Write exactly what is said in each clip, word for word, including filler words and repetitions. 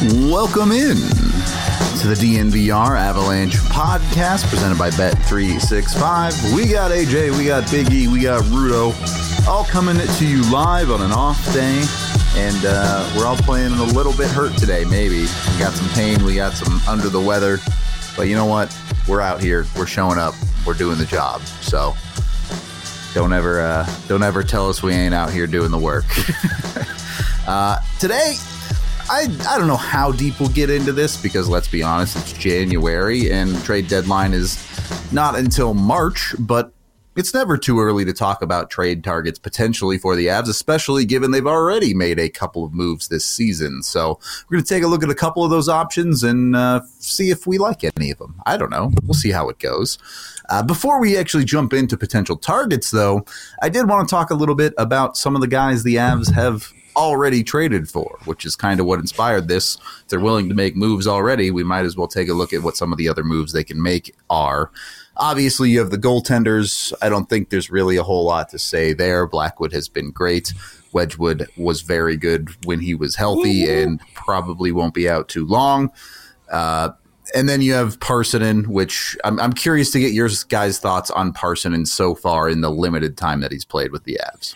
Welcome in to the D N V R Avalanche podcast presented by Bet three sixty-five. We got A J, we got Big E, we got Rudo, all coming to you live on an off day, and uh, we're all playing a little bit hurt today, maybe. We got some pain, we got some under the weather, but you know what? We're out here, we're showing up, we're doing the job, so don't ever, uh, don't ever tell us we ain't out here doing the work. uh, today, I, I don't know how deep we'll get into this because, let's be honest, it's January and trade deadline is not until March, but it's never too early to talk about trade targets potentially for the Avs, especially given they've already made a couple of moves this season. So we're going to take a look at a couple of those options and uh, see if we like any of them. I don't know. We'll see how it goes. Uh, before we actually jump into potential targets, though, I did want to talk a little bit about some of the guys the Avs have already traded for, which is kind of what inspired this. If they're willing to make moves already, we might as well take a look at what some of the other moves they can make are. Obviously, you have the goaltenders. I don't think there's really a whole lot to say there. Blackwood has been great. Wedgwood was very good when he was healthy and probably won't be out too long. Uh, and then you have Parssinen, which I'm, I'm curious to get your guys' thoughts on Parssinen so far in the limited time that he's played with the Avs.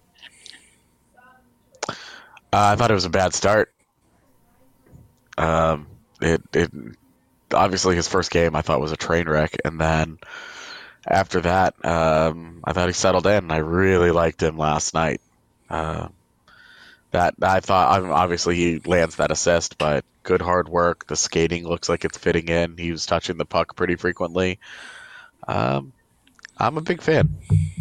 Uh, I thought it was a bad start. Um, it, it obviously his first game I thought was a train wreck, and then after that, um, I thought he settled in. I really liked him last night. Uh, that I thought obviously he lands that assist, but good hard work. The skating looks like it's fitting in. He was touching the puck pretty frequently. Um, I'm a big fan.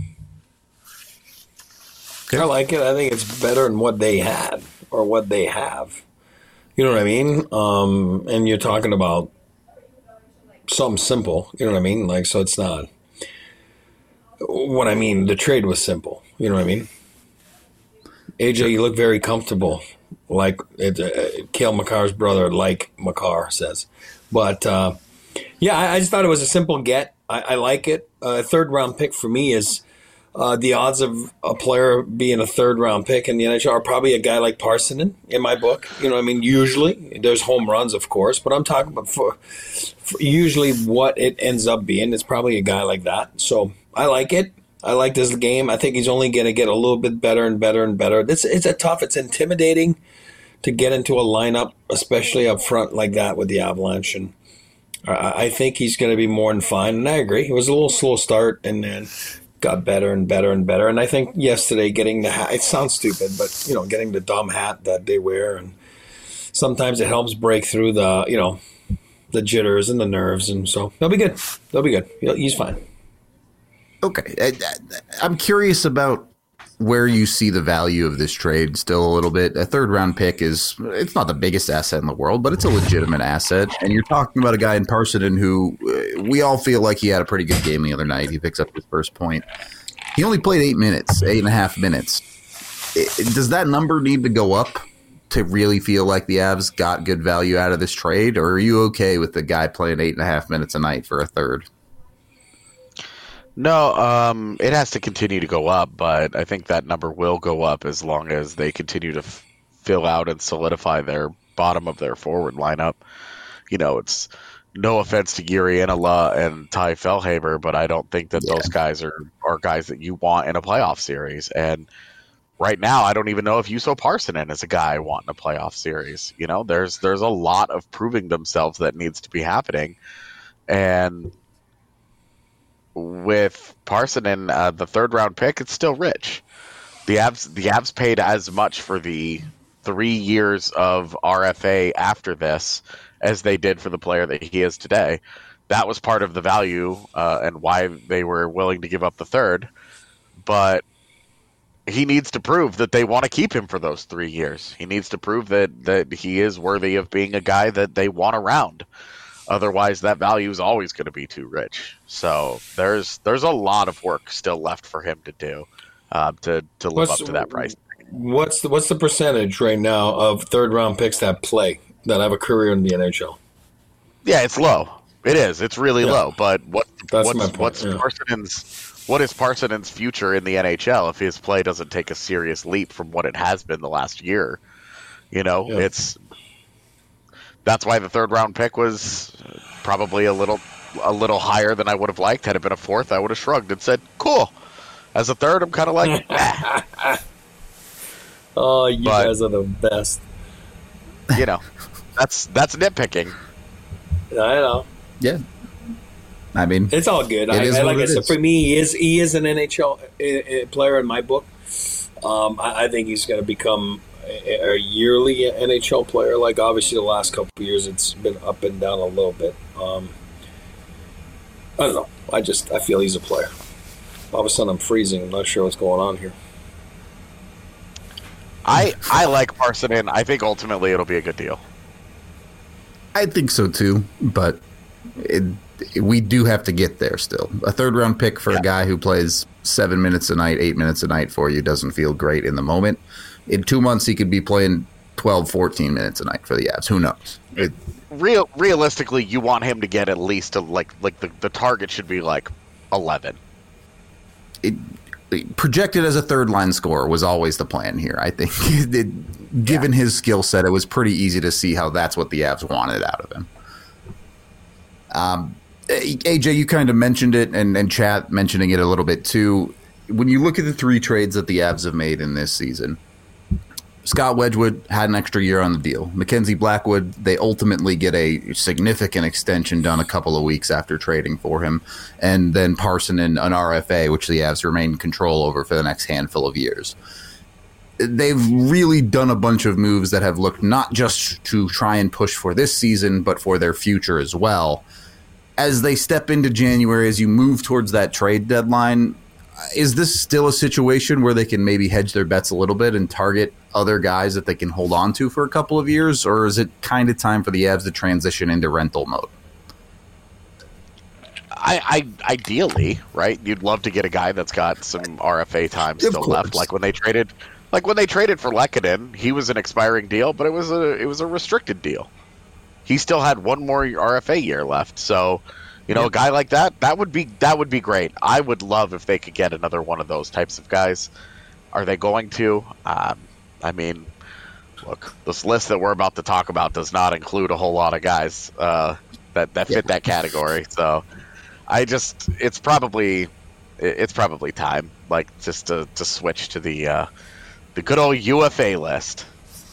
I like it. I think it's better than what they had or what they have. You know what I mean? Um, and you're talking about something simple. You know what I mean? Like, so it's not. What I mean, the trade was simple. You know what I mean? A J, you look very comfortable, like it, uh, Cale Makar's brother, like Makar says. But uh, yeah, I, I just thought it was a simple get. I, I like it. A uh, third round pick for me is. Uh, the odds of a player being a third-round pick in the N H L are probably a guy like Parssinen in my book. You know what I mean? Usually. There's home runs, of course, but I'm talking about for, for usually what it ends up being. It's probably a guy like that. So I like it. I like this game. I think he's only going to get a little bit better and better and better. It's, it's a tough. It's intimidating to get into a lineup, especially up front like that with the Avalanche. And I, I think he's going to be more than fine. And I agree. It was a little slow start, and then got better and better and better. And I think yesterday getting the hat, it sounds stupid, but, you know, getting the dumb hat that they wear, and sometimes it helps break through the, you know, the jitters and the nerves. And so they'll be good. They'll be good. He's fine. Okay. I, I'm curious about where you see the value of this trade still a little bit. A third round pick is, it's not the biggest asset in the world, but it's a legitimate asset. And you're talking about a guy in Parssinen who uh, we all feel like he had a pretty good game the other night. He picks up his first point. He only played eight minutes, eight and a half minutes. It, does that number need to go up to really feel like the Avs got good value out of this trade? Or are you okay with the guy playing eight and a half minutes a night for a third? No, um, it has to continue to go up, but I think that number will go up as long as they continue to f- fill out and solidify their bottom of their forward lineup. You know, it's no offense to Jiri Inola and Ty Fellhaber, but I don't think that yeah. those guys are, are guys that you want in a playoff series. And right now, I don't even know if Juuso Parssinen is a guy wanting a playoff series. You know, there's there's a lot of proving themselves that needs to be happening. And with Parssinen, uh, the third round pick, it's still rich. The Avs, the Avs paid as much for the three years of R F A after this as they did for the player that he is today. That was part of the value uh, and why they were willing to give up the third. But he needs to prove that they want to keep him for those three years. He needs to prove that, that he is worthy of being a guy that they want around. Otherwise, that value is always going to be too rich. So there's there's a lot of work still left for him to do uh, to to live what's, up to that price. What's the what's the percentage right now of third round picks that play that have a career in the N H L? Yeah, it's low. It is. It's really yeah. low. But what That's what's my point. what's Yeah. Parssinen's what is Parssinen's future in the N H L if his play doesn't take a serious leap from what it has been the last year? You know, yeah. it's that's why the third round pick was probably a little a little higher than I would have liked. Had it been a fourth, I would have shrugged and said, "Cool." As a third, I'm kind of like, eh. Oh, you But- guys are the best. you know, that's that's nitpicking. I know. Yeah. I mean, It's all good. I, is I, what like I it said, is. for me, he is he is an N H L uh, uh, player in my book. Um, I, I think he's going to become a, a yearly N H L player. Like obviously, the last couple of years, it's been up and down a little bit. Um, I don't know. I just I feel he's a player. All of a sudden, I'm freezing. I'm not sure what's going on here. I I like Parsonen. I think ultimately it'll be a good deal. I think so too, but it, we do have to get there still. A third round pick for Yeah. a guy who plays seven minutes a night, eight minutes a night for you doesn't feel great in the moment. In two months, he could be playing twelve, fourteen minutes a night for the Avs. Who knows? It, Real realistically, you want him to get at least a, like like the, the target should be like eleven. it, it projected as a third line scorer was always the plan here. I think, it, given his skill set, it was pretty easy to see how that's what the Avs wanted out of him. Um, A J, you kind of mentioned it, and, and Chat mentioning it a little bit too. When you look at the three trades that the Avs have made in this season, Scott Wedgwood had an extra year on the deal. Mackenzie Blackwood, they ultimately get a significant extension done a couple of weeks after trading for him. And then Parsonen, an R F A, which the Avs remain in control over for the next handful of years. They've really done a bunch of moves that have looked not just to try and push for this season, but for their future as well. As they step into January, as you move towards that trade deadline, is this still a situation where they can maybe hedge their bets a little bit and target other guys that they can hold on to for a couple of years? Or is it kind of time for the Avs to transition into rental mode? I, I ideally, right? You'd love to get a guy that's got some R F A time Of still course. left. Like when they traded, like when they traded for Lehkonen, he was an expiring deal, but it was a it was a restricted deal. He still had one more R F A year left, so you know, Yeah. a guy like that, that would be that would be great. I would love if they could get another one of those types of guys. Are they going to? Um, I mean, look, this list that we're about to talk about does not include a whole lot of guys uh, that that fit Yeah. that category. So, I just it's probably it's probably time, like just to, to switch to the uh, the good old U F A list.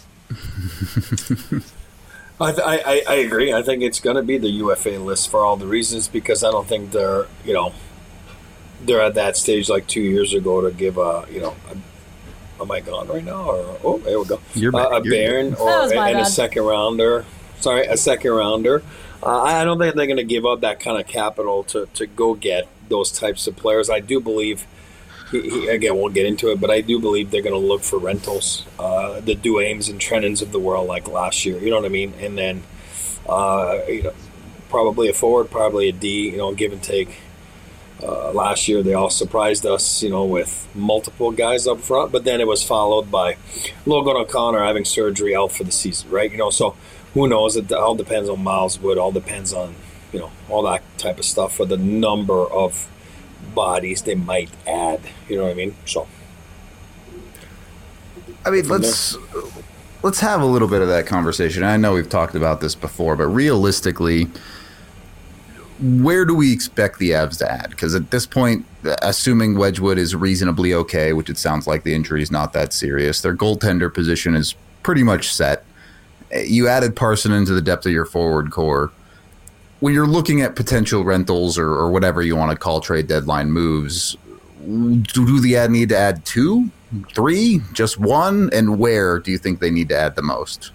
I, th- I, I I agree. I think it's going to be the U F A list for all the reasons because I don't think they're you know they're at that stage like two years ago to give a you know a, am I gone right now or oh there we go You're uh, back. a You're Baron good. or That was my and a bad. second rounder. Sorry, a second rounder. Uh, I don't think they're going to give up that kind of capital to, to go get those types of players. I do believe. He, he, again, we'll get into it, but I do believe they're going to look for rentals, uh, the Duames and Trennans of the world, like last year. You know what I mean? And then, uh, you know, probably a forward, probably a D. You know, give and take. Uh, last year, they all surprised us, you know, with multiple guys up front, but then it was followed by Logan O'Connor having surgery out for the season, right? You know, so who knows? It all depends on Miles Wood. All depends on, you know, all that type of stuff for the number of bodies they might add. You know what I mean? So I mean, From let's let's have a little bit of that conversation. I know we've talked about this before, but realistically, where do we expect the Avs to add? Because at this point, assuming Wedgwood is reasonably okay, which it sounds like the injury is not that serious, their goaltender position is pretty much set. You added Parson into the depth of your forward core. When you're looking at potential rentals or, or whatever you want to call trade deadline moves, do, do the Avs need to add two, three, just one? And where do you think they need to add the most?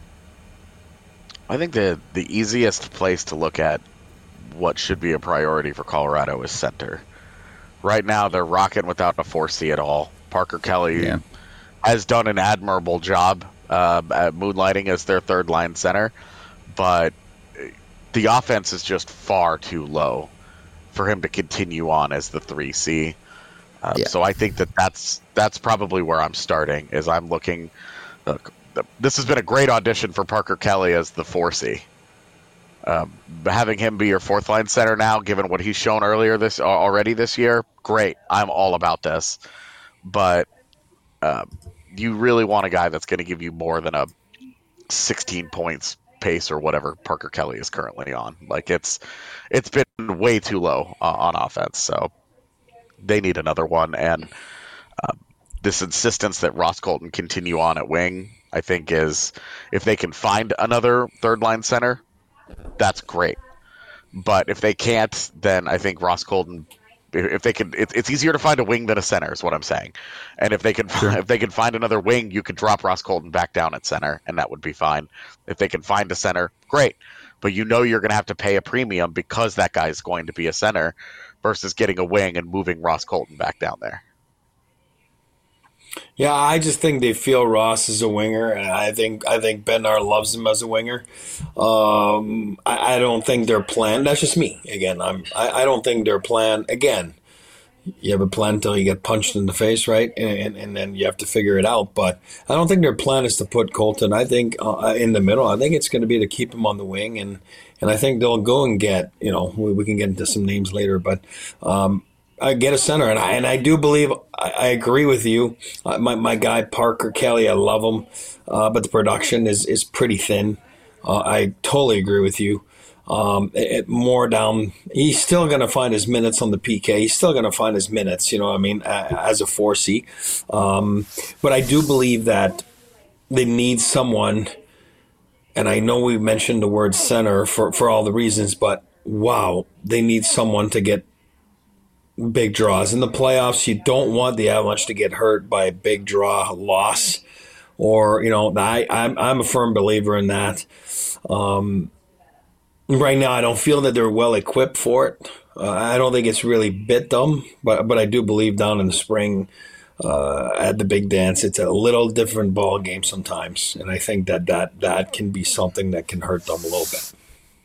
I think the the easiest place to look at what should be a priority for Colorado is center. Right now, they're rocking without a four C at all. Parker Kelly Yeah. has done an admirable job uh, at moonlighting as their third line center, but the offense is just far too low for him to continue on as the three C. Uh, Yeah. So I think that that's that's probably where I'm starting. Is I'm looking. Look, this has been a great audition for Parker Kelly as the four C. Um, having him be your fourth line center now, given what he's shown earlier this already this year, great. I'm all about this. But um, you really want a guy that's going to give you more than a sixteen points pace or whatever Parker Kelly is currently on. Like it's it's been way too low uh, on offense, so they need another one. And uh, this insistence that Ross Colton continue on at wing, I think, is if they can find another third line center, that's great. But if they can't, then I think Ross Colton, if they can, it, it's easier to find a wing than a center, is what I'm saying. And if they can, sure. if they can find another wing, you could drop Ross Colton back down at center, and that would be fine. If they can find a center, great. But you know you're going to have to pay a premium because that guy is going to be a center, versus getting a wing and moving Ross Colton back down there. Yeah, I just think they feel Ross is a winger, and I think I think Bednar loves him as a winger. Um, I, I don't think their plan. That's just me. Again, I'm. I, I don't think their plan. Again, you have a plan until you get punched in the face, right? And, and and then you have to figure it out. But I don't think their plan is to put Colton. I think uh, in the middle. I think it's going to be to keep him on the wing, and and I think they'll go and get. You know, we, we can get into some names later, but. Um, I get a center, and I and I do believe I, I agree with you. Uh, my my guy Parker Kelly, I love him, uh, but the production is is pretty thin. Uh, I totally agree with you. Um, it, it more down. He's still going to find his minutes on the P K. He's still going to find his minutes. You know what I mean, as a four C. Um, but I do believe that they need someone. And I know we mentioned the word center for for all the reasons, but wow, they need someone to get big draws. In the playoffs, you don't want the Avalanche to get hurt by a big draw loss. Or, you know, I, I'm, I'm a firm believer in that. Um, right now, I don't feel that they're well equipped for it. Uh, I don't think it's really bit them, but but I do believe down in the spring uh, at the big dance, it's a little different ball game sometimes. And I think that that, that can be something that can hurt them a little bit.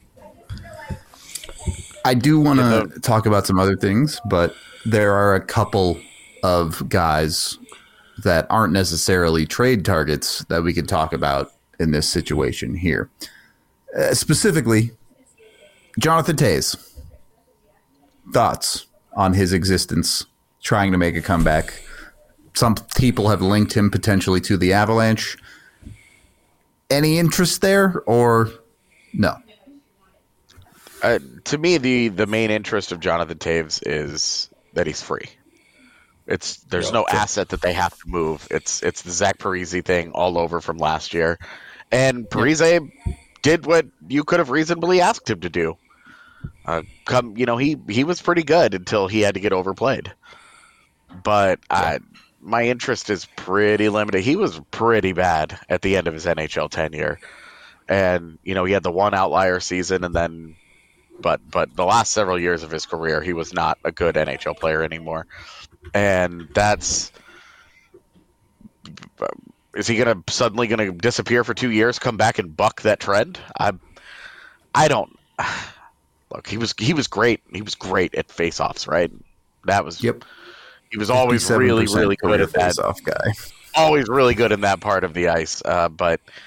I do want to talk about some other things, but there are a couple of guys that aren't necessarily trade targets that we can talk about in this situation here. Uh, specifically, Jonathan Toews. Thoughts on his existence, trying to make a comeback. Some people have linked him potentially to the Avalanche. Any interest there or no? Uh, to me, the, the main interest of Jonathan Toews is that he's free. It's there's no asset that they have to move. It's it's the Zach Parise thing all over from last year, and Parise did what you could have reasonably asked him to do. Uh, come, you know, he he was pretty good until he had to get overplayed. But I, my interest is pretty limited. He was pretty bad at the end of his N H L tenure, and you know he had the one outlier season, and then. But but the last several years of his career, he was not a good N H L player anymore. And that's – is he going to suddenly going to disappear for two years, come back and buck that trend? I I don't – look, he was he was great. He was great at faceoffs, right? That was – Yep. He was always really, really good at that. Face-off guy. Always really good in that part of the ice. Uh, but –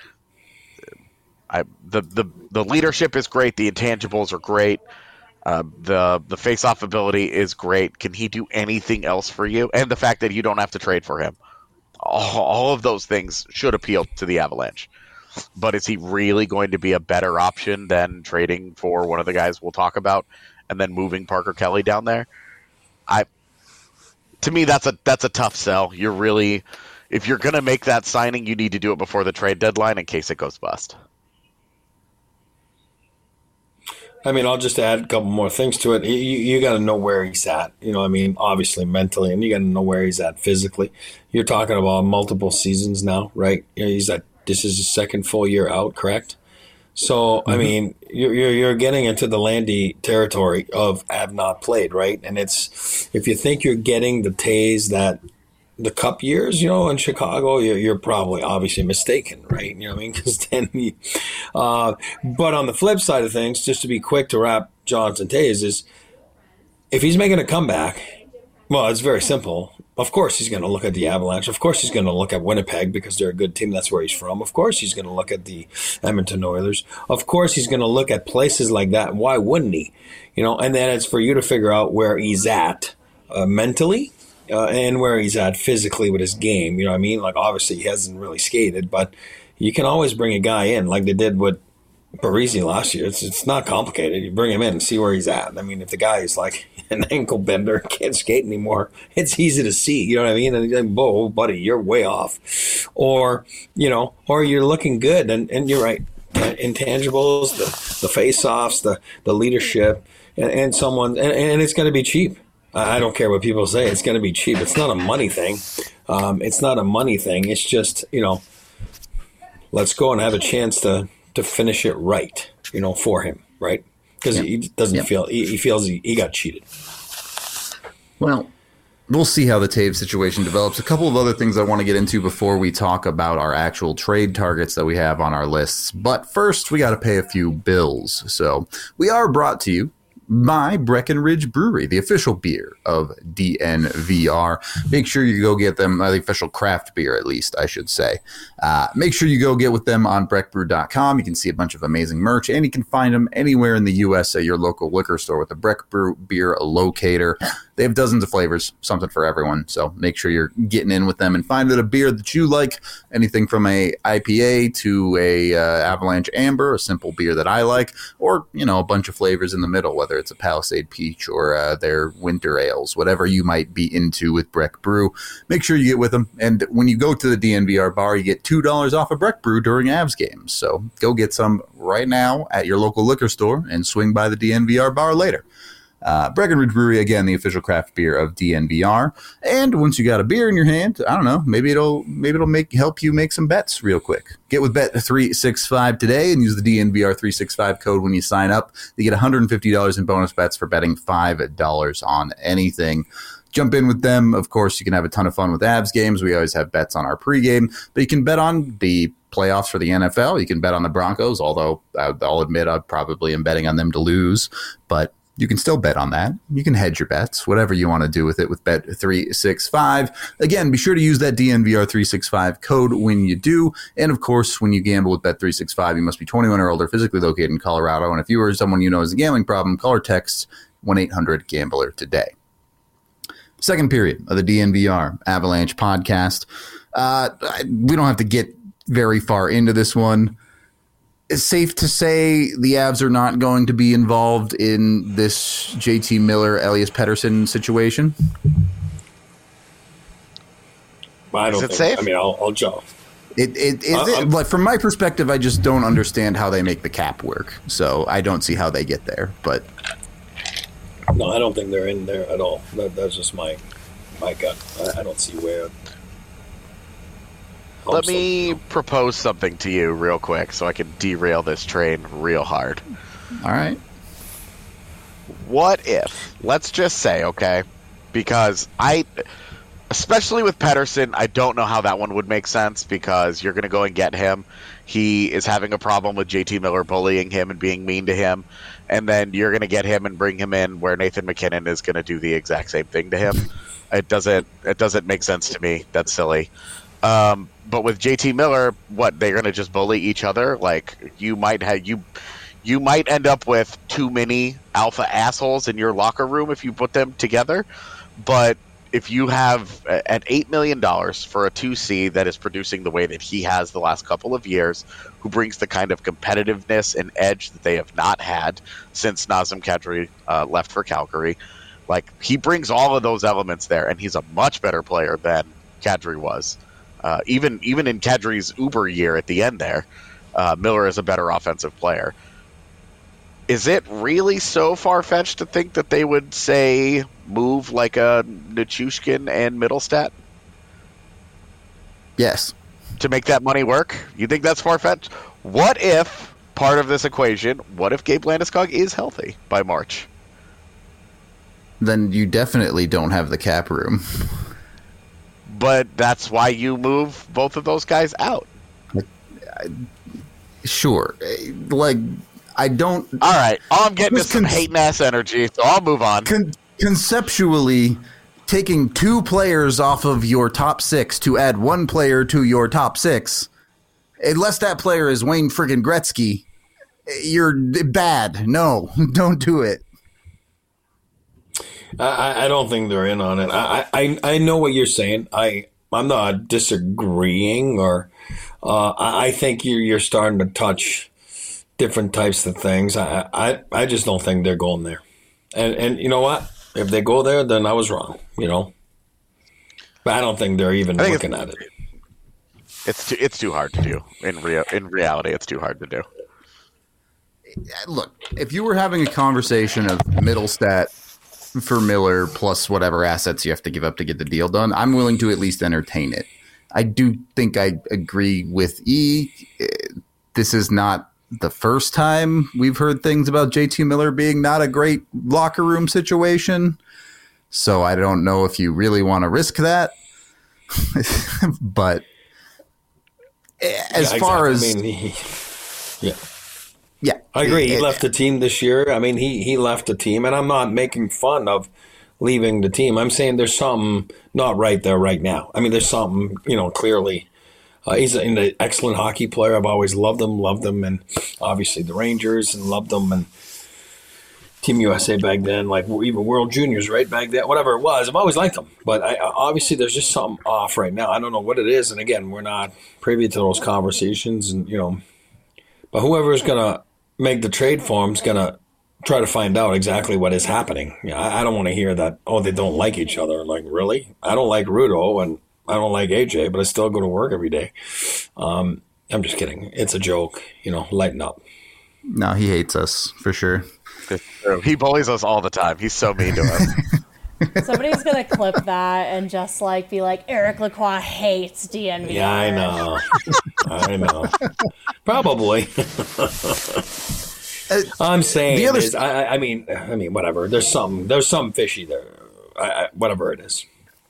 I, the, the the leadership is great. The intangibles are great. Uh, the the face-off ability is great. Can he do anything else for you? And the fact that you don't have to trade for him. All, all of those things should appeal to the Avalanche. But is he really going to be a better option than trading for one of the guys we'll talk about and then moving Parker Kelly down there? I to me that's a that's a tough sell. You're really if you're going to make that signing, you need to do it before the trade deadline in case it goes bust. I mean, I'll just add a couple more things to it. You, you got to know where he's at. You know, I mean, obviously mentally, and you got to know where he's at physically. You're talking about multiple seasons now, right? You know, he's at this is his second full year out, correct? So, mm-hmm. I mean, you're, you're you're getting into the Landy territory of have not played, right? And it's if you think you're getting the Toews that the Cup years, you know, in Chicago, you're, you're probably obviously mistaken, right? You know what I mean? Because then, you, uh, but on the flip side of things, just to be quick to wrap Jonathan Toews is, if he's making a comeback, well, it's very simple. Of course, he's going to look at the Avalanche. Of course, he's going to look at Winnipeg because they're a good team. That's where he's from. Of course, he's going to look at the Edmonton Oilers. Of course, he's going to look at places like that. Why wouldn't he? You know, and then it's for you to figure out where he's at uh, mentally. Uh, and where he's at physically with his game, you know what I mean? Like, obviously, he hasn't really skated, but you can always bring a guy in, like they did with Parisi last year. It's it's not complicated. You bring him in and see where he's at. I mean, if the guy is like an ankle bender, can't skate anymore, it's easy to see. You know what I mean? And you're like, whoa, buddy, you're way off. Or, you know, or you're looking good. And, and you're right. Uh, intangibles, the, the face-offs, the, the leadership, and, and someone, and, and it's going to be cheap. I don't care what people say. It's going to be cheap. It's not a money thing. Um, it's not a money thing. It's just, you know, let's go and have a chance to, to finish it right, you know, for him, right? Because yep. he doesn't yep. feel, he, he feels he, he got cheated. Well, we'll see how the Taves situation develops. A couple of other things I want to get into before we talk about our actual trade targets that we have on our lists. But first, we got to pay a few bills. So we are brought to you by Breckenridge Brewery, the official beer of D N V R. Make sure you go get them, uh, the official craft beer, at least, I should say. Uh, make sure you go get with them on breck brew dot com. You can see a bunch of amazing merch, and you can find them anywhere in the U S at your local liquor store with the Breck Brew Beer Locator. They have dozens of flavors, something for everyone. So make sure you're getting in with them and find a beer that you like. Anything from a I P A to a uh, Avalanche Amber, a simple beer that I like, or, you know, a bunch of flavors in the middle, whether it's a Palisade Peach or uh, their winter ales, whatever you might be into with Breck Brew. Make sure you get with them. And when you go to the D N V R bar, you get two dollars off a Breck Brew during Avs games. So go get some right now at your local liquor store and swing by the D N V R bar later. Uh, Breckenridge Brewery, again, the official craft beer of D N V R. And once you got a beer in your hand, I don't know, maybe it'll maybe it'll make help you make some bets real quick. Get with Bet three sixty-five today and use the D N V R three sixty-five code when you sign up. You get one hundred fifty dollars in bonus bets for betting five dollars on anything. Jump in with them. Of course, you can have a ton of fun with Avs games. We always have bets on our pregame, but you can bet on the playoffs for the N F L. You can bet on the Broncos, although I'll admit I probably am betting on them to lose, but you can still bet on that. You can hedge your bets, whatever you want to do with it with Bet three sixty-five. Again, be sure to use that D N V R three sixty-five code when you do. And, of course, when you gamble with Bet three sixty-five, you must be twenty-one or older, physically located in Colorado. And if you or someone you know has a gambling problem, call or text one eight hundred gambler today. Second period of the D N V R Avalanche podcast. Uh, we don't have to get very far into this one. It's safe to say the Avs are not going to be involved in this J T Miller, Elias Pettersson situation. I don't is it think, safe? I mean, I'll, I'll jump. It, it, it, uh, it, but from my perspective, I just don't understand how they make the cap work. So I don't see how they get there. But no, I don't think they're in there at all. That, that's just my my gut. I, I don't see where. Let me propose something to you real quick so I can derail this train real hard. All right. What if, let's just say, okay, because I, especially with Pettersson, I don't know how that one would make sense because you're going to go and get him. He is having a problem with J T Miller bullying him and being mean to him. And then you're going to get him and bring him in where Nathan McKinnon is going to do the exact same thing to him. It doesn't, it doesn't make sense to me. That's silly. Um, but with J T Miller, what, they're going to just bully each other? Like, you might have you you might end up with too many alpha assholes in your locker room if you put them together. But if you have at eight million dollars for a two C that is producing the way that he has the last couple of years, who brings the kind of competitiveness and edge that they have not had since Nazem Kadri uh, left for Calgary, like, he brings all of those elements there, and he's a much better player than Kadri was. Uh, even even in Kadri's Uber year at the end there, uh, Miller is a better offensive player. Is it really so far-fetched to think that they would, say, move like a Nichushkin and Middlestat? Yes. To make that money work? You think that's far-fetched? What if, part of this equation, what if Gabe Landeskog is healthy by March? Then you definitely don't have the cap room. But that's why you move both of those guys out. Sure. Like, I don't... All right. All I'm getting is some con- hating-ass energy, so I'll move on. Con- conceptually, taking two players off of your top six to add one player to your top six, unless that player is Wayne friggin' Gretzky, you're bad. No, don't do it. I, I don't think they're in on it. I, I, I know what you're saying. I I'm not disagreeing, or uh, I, I think you're you're starting to touch different types of things. I, I, I just don't think they're going there. And and you know what? If they go there, then I was wrong. You know, but I don't think they're even looking at it. It's too, it's too hard to do. In rea- in reality, it's too hard to do. Look, if you were having a conversation of Middlestat for Miller plus whatever assets you have to give up to get the deal done, I'm willing to at least entertain it. I do think I agree with E. This is not the first time we've heard things about J T Miller being not a great locker room situation. So I don't know if you really want to risk that. But as yeah, far exactly. as... I mean, he, yeah. Yeah. I agree. He it, left the team this year. I mean, he, he left the team, and I'm not making fun of leaving the team. I'm saying there's something not right there right now. I mean, there's something, you know, clearly. Uh, he's an excellent hockey player. I've always loved him, loved him, and obviously the Rangers, and loved him, and Team U S A back then, like even World Juniors, right, back then, whatever it was. I've always liked him. But I, obviously there's just something off right now. I don't know what it is, and again, we're not privy to those conversations, and you know, but whoever's going to make the trade for him is going to try to find out exactly what is happening. You know, I, I don't want to hear that, oh, they don't like each other. Like, really? I don't like Rudo, and I don't like A J, but I still go to work every day. Um, I'm just kidding. It's a joke. You know, lighten up. No, he hates us, for sure. He bullies us all the time. He's so mean to us. Somebody's going to clip that and just, like, be like, Eric Lacroix hates D N V R. Yeah, I know. I know. Probably. I'm saying the other is, I, I mean, I mean, whatever. There's some, there's some fishy there. I, I, whatever it is.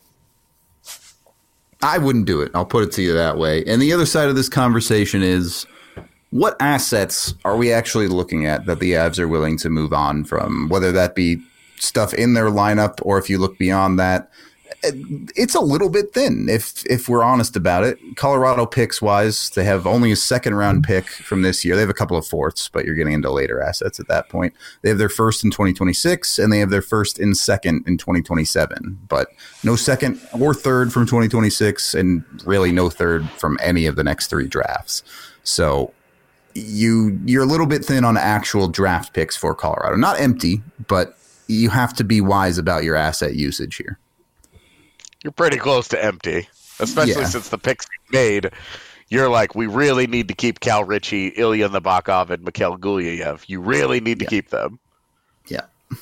I wouldn't do it. I'll put it to you that way. And the other side of this conversation is, what assets are we actually looking at that the Avs are willing to move on from, whether that be stuff in their lineup or if you look beyond that? It's a little bit thin, if if we're honest about it. Colorado picks wise, they have only a second round pick from this year. They have a couple of fourths, but you're getting into later assets at that point. They have their first in twenty twenty-six, and they have their first and second in twenty twenty-seven. But no second or third from twenty twenty-six, and really no third from any of the next three drafts. So you you're a little bit thin on actual draft picks for Colorado. Not empty, but you have to be wise about your asset usage here. You're pretty close to empty, especially yeah. since the picks you made. You're like, we really need to keep Cal Ritchie, Ilya Nabokov, and Mikhail Gulyayev. You really need to yeah. keep them. Yeah.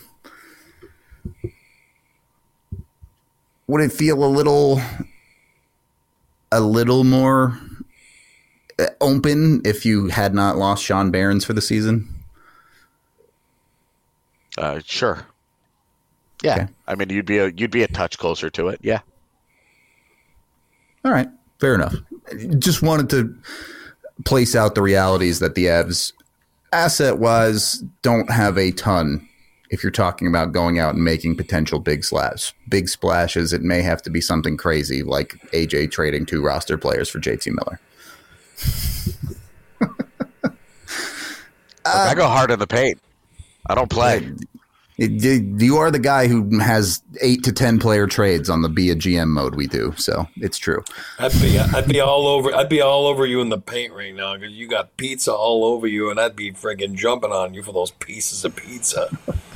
Would it feel a little, a little more open if you had not lost Sean Barons for the season? Uh, sure. Yeah, okay. I mean, you'd be a you'd be a touch closer to it. Yeah. All right, fair enough. Just wanted to place out the realities that the Avs, asset-wise, don't have a ton. If you're talking about going out and making potential big splash, big splashes, it may have to be something crazy like A J trading two roster players for J T Miller. Look, uh, I go hard in the paint. I don't play. It, it, you are the guy who has eight to ten player trades on the be a G M mode we do, so it's true. I'd be I'd be all over I'd be all over you in the paint right now because you got pizza all over you, and I'd be friggin' jumping on you for those pieces of pizza.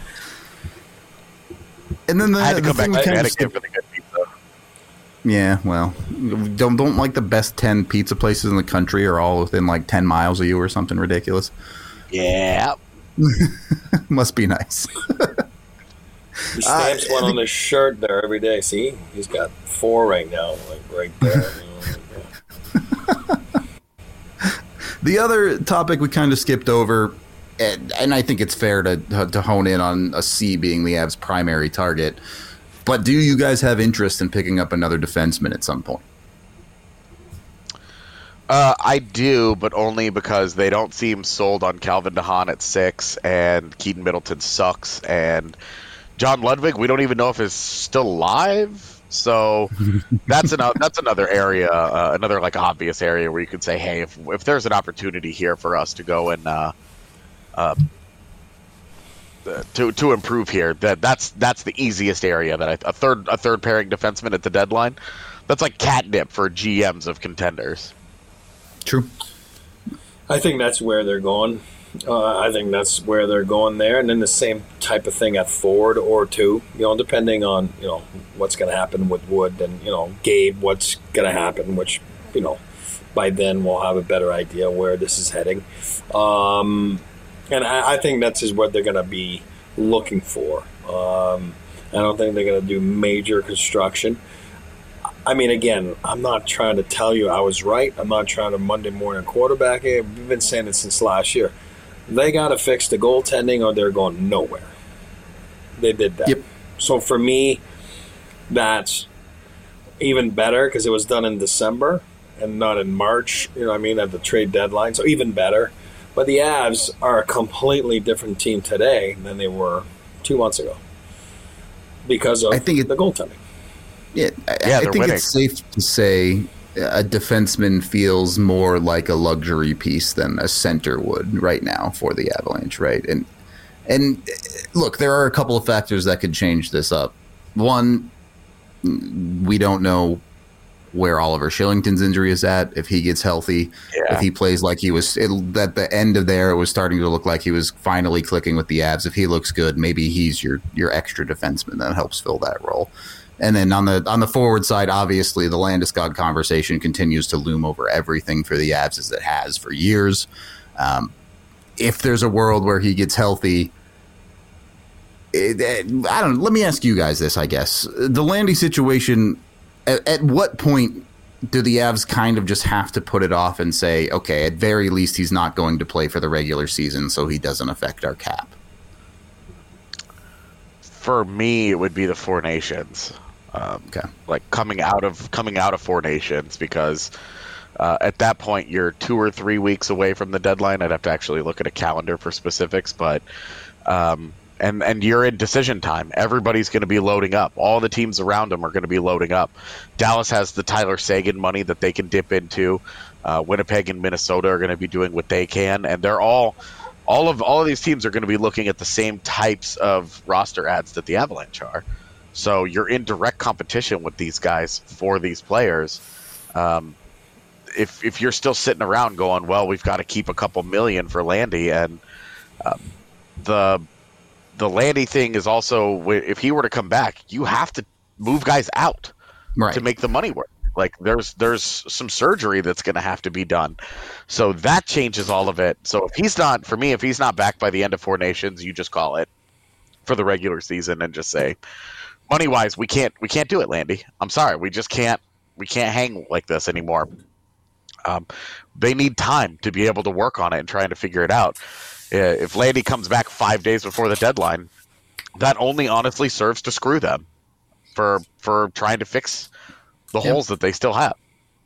And then the, I had to the come thing back to kind Connecticut of for the good pizza. Yeah, well, don't don't like the best ten pizza places in the country are all within like ten miles of you or something ridiculous. Yeah. Must be nice. He stamps uh, one on his shirt there every day. See, he's got four right now, like right there. The other topic we kind of skipped over, and, and I think it's fair to to hone in on a C being the Avs' primary target. But do you guys have interest in picking up another defenseman at some point? Uh, I do, but only because they don't seem sold on Calvin DeHaan at six, and Keaton Middleton sucks, and John Ludwig, we don't even know if he's still alive. So that's another that's another area, uh, another like obvious area where you could say, hey, if if there's an opportunity here for us to go and uh, uh, to to improve here, that that's that's the easiest area. That I, a third a third pairing defenseman at the deadline, that's like catnip for G Ms of contenders. True. I think that's where they're going. Uh, I think that's where they're going there, and then the same type of thing at forward or two. You know, depending on you know what's going to happen with Wood and you know Gabe, what's going to happen. Which you know, by then we'll have a better idea where this is heading. Um, and I, I think that's is what they're going to be looking for. Um, I don't think they're going to do major construction. I mean, again, I'm not trying to tell you I was right. I'm not trying to Monday morning quarterback it. We've been saying it since last year. They got to fix the goaltending or they're going nowhere. They did that. Yep. So for me, that's even better because it was done in December and not in March, you know what I mean, at the trade deadline. So even better. But the Avs are a completely different team today than they were two months ago because of I think it, the goaltending. Yeah, I, yeah, I think winning. it's safe to say a defenseman feels more like a luxury piece than a center would right now for the Avalanche, right? And and look, there are a couple of factors that could change this up. One, we don't know where Oliver Shillington's injury is at, if he gets healthy, yeah. if he plays like he was it, at the end of there, it was starting to look like he was finally clicking with the Avs. If he looks good, maybe he's your your extra defenseman that helps fill that role. And then on the on the forward side, obviously, the Landeskog conversation continues to loom over everything for the Avs as it has for years. Um, if there's a world where he gets healthy, it, it, I don't know. Let me ask you guys this, I guess. The Landy situation, at, at what point do the Avs kind of just have to put it off and say, okay, at very least, he's not going to play for the regular season, so he doesn't affect our cap? For me, it would be the Four Nations. Um, okay. Like coming out of coming out of Four Nations, because uh, at that point you're two or three weeks away from the deadline. I'd have to actually look at a calendar for specifics, but um, and and you're in decision time. Everybody's going to be loading up. All the teams around them are going to be loading up. Dallas has the Tyler Seguin money that they can dip into. Uh, Winnipeg and Minnesota are going to be doing what they can, and they're all. All of all of these teams are going to be looking at the same types of roster ads that the Avalanche are. So you're in direct competition with these guys for these players. Um, if if you're still sitting around going, well, we've got to keep a couple million for Landy, and um, the the Landy thing is also, if he were to come back, you have to move guys out right. to make the money work. Like there's there's some surgery that's going to have to be done. So that changes all of it. So if he's not, for me, if he's not back by the end of Four Nations, you just call it for the regular season and just say, money wise, we can't we can't do it, Landy. I'm sorry, we just can't we can't hang like this anymore. Um, they need time to be able to work on it and trying to figure it out. Uh, if Landy comes back five days before the deadline, that only honestly serves to screw them for for trying to fix the yep. holes that they still have.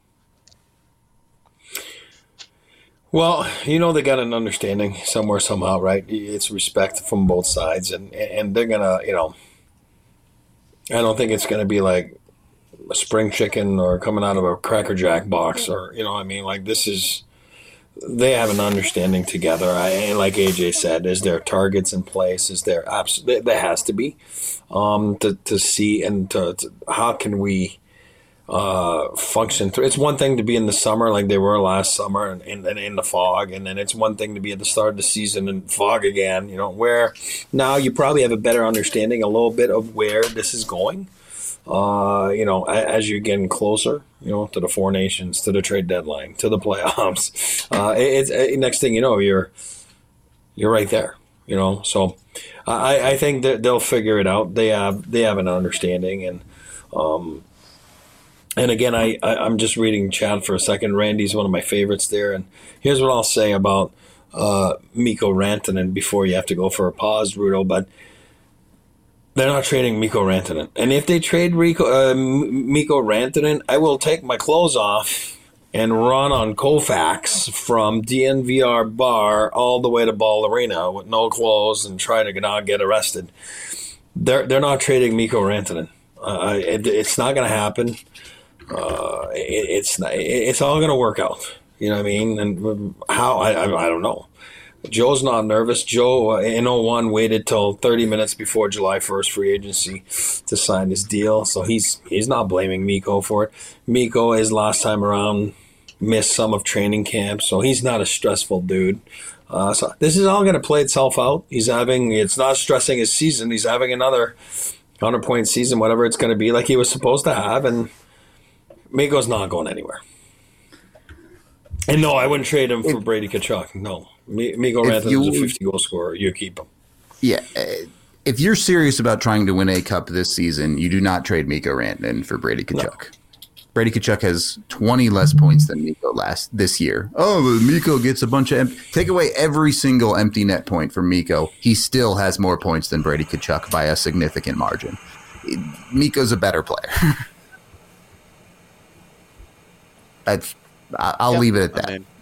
Well, you know, they got an understanding somewhere, somehow, right? It's respect from both sides, and and they're gonna, you know, I don't think it's gonna be like a spring chicken or coming out of a Cracker Jack box, or you know, what I mean, like this is. They have an understanding together. I, and like A J said, is there targets in place? Is there abs- there has to be um, to to see and to, to how can we. Uh, function through. It's one thing to be in the summer like they were last summer and, and, and in the fog, and then it's one thing to be at the start of the season and fog again, you know, where now you probably have a better understanding a little bit of where this is going, uh, you know, as you're getting closer, you know, to the Four Nations, to the trade deadline, to the playoffs. Uh, it's it, next thing you know, you're you're right there, you know, so I, I think that they'll figure it out. They have they have an understanding, and um And again, I, I, I'm just reading chat for a second. Randy's one of my favorites there. And here's what I'll say about uh, Mikko Rantanen before you have to go for a pause, Rudo. But they're not trading Mikko Rantanen. And if they trade Rico, uh, Mikko Rantanen, I will take my clothes off and run on Koufax from D N V R bar all the way to Ball Arena with no clothes and try to not get arrested. They're, they're not trading Mikko Rantanen. Uh, it, it's not going to happen. Uh, it, it's not, it's all going to work out. You know what I mean? And how, I, I, I don't know. Joe's not nervous. Joe, uh, in oh one, waited till thirty minutes before July first free agency to sign his deal. So he's he's not blaming Mikko for it. Mikko, his last time around, missed some of training camp. So he's not a stressful dude. Uh, so this is all going to play itself out. He's having, it's not stressing his season. He's having another one hundred point season, whatever it's going to be, like he was supposed to have. And Mikko's not going anywhere. And no, I wouldn't trade him for if, Brady Tkachuk. No. Mikko Rantanen is a fifty goal scorer. You keep him. Yeah. If you're serious about trying to win a cup this season, you do not trade Mikko Rantanen for Brady Tkachuk. No. Brady Tkachuk has twenty less points than Mikko last this year. Oh, Mikko gets a bunch of empty. Take away every single empty net point from Mikko. He still has more points than Brady Tkachuk by a significant margin. Mikko's a better player. That's, I'll yep. leave it at that. I mean,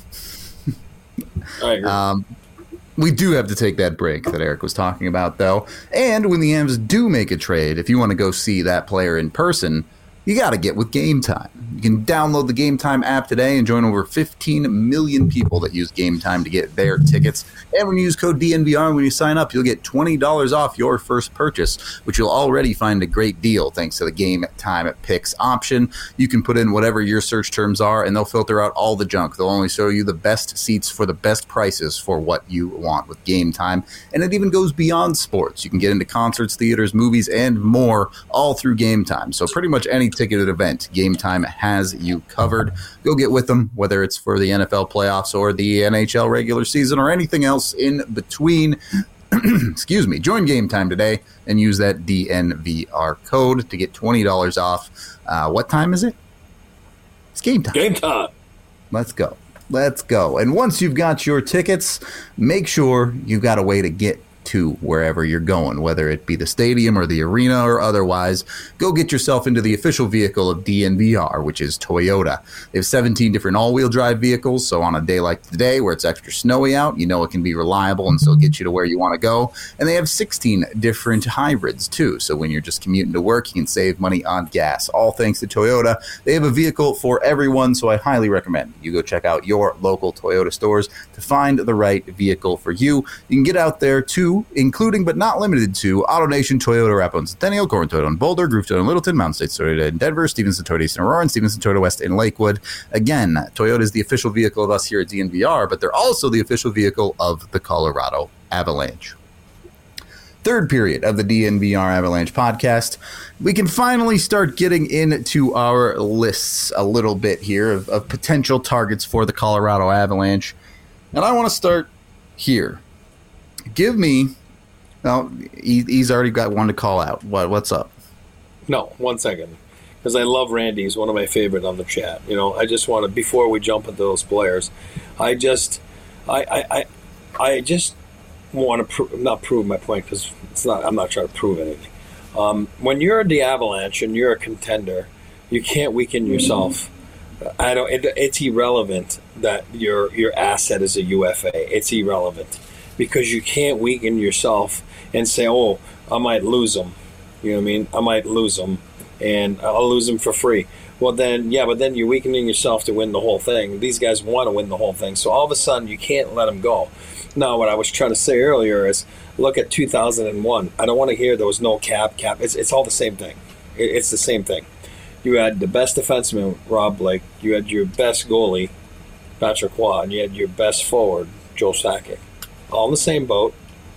I agree. Um, we do have to take that break that Eric was talking about, though. And when the Avs do make a trade, if you want to go see that player in person, you got to get with Game Time. You can download the Game Time app today and join over fifteen million people that use Game Time to get their tickets. And when you use code D N V R when you sign up, you'll get twenty dollars off your first purchase, which you'll already find a great deal thanks to the Game Time Picks option. You can put in whatever your search terms are, and they'll filter out all the junk. They'll only show you the best seats for the best prices for what you want with Game Time. And it even goes beyond sports. You can get into concerts, theaters, movies, and more, all through Game Time. So pretty much any ticketed event, Game Time has you covered. Go get with them, whether it's for the N F L playoffs or the N H L regular season or anything else in between. Excuse me. Join Game Time today and use that D N V R code to get twenty dollars off. Uh, what time is it? It's game time. Game time. Let's go. Let's go. And once you've got your tickets, make sure you've got a way to get to wherever you're going, whether it be the stadium or the arena or otherwise. Go get yourself into the official vehicle of D N V R, which is Toyota. They have seventeen different all-wheel drive vehicles, so on a day like today where it's extra snowy out, you know it can be reliable and still get you to where you want to go. And they have sixteen different hybrids too, so when you're just commuting to work, you can save money on gas. All thanks to Toyota. They have a vehicle for everyone, so I highly recommend you go check out your local Toyota stores to find the right vehicle for you. You can get out there too, including but not limited to AutoNation, Toyota, Rapo and Centennial, Corin Toyota in Boulder, Groove Toyota in Littleton, Mountain States Toyota in Denver, Stevenson Toyota East in Aurora, and Stevenson Toyota West in Lakewood. Again, Toyota is the official vehicle of us here at D N V R, but they're also the official vehicle of the Colorado Avalanche. Third period of the D N V R Avalanche podcast. We can finally start getting into our lists a little bit here of, of potential targets for the Colorado Avalanche. And I want to start here. Give me, well, he, he's already got one to call out. What, what's up? No, one second. Because I love Randy. He's one of my favorite on the chat. You know, I just want to, before we jump into those players, I just, I, I, I, I just want to pro- not prove my point because it's not. I'm not trying to prove anything. Um, when you're the Avalanche and you're a contender, you can't weaken yourself. I don't. It, it's irrelevant that your your asset is a U F A. It's irrelevant because you can't weaken yourself and say, "Oh, I might lose them." You know what I mean? I might lose them, and I'll lose them for free. Well, then, yeah, but then you're weakening yourself to win the whole thing. These guys want to win the whole thing, so all of a sudden you can't let them go. Now, what I was trying to say earlier is, look at two thousand one. I don't want to hear there was no cap, cap. It's it's all the same thing. It, it's the same thing. You had the best defenseman, Rob Blake. You had your best goalie, Patrick Roy, and you had your best forward, Joe Sakic. All in the same boat.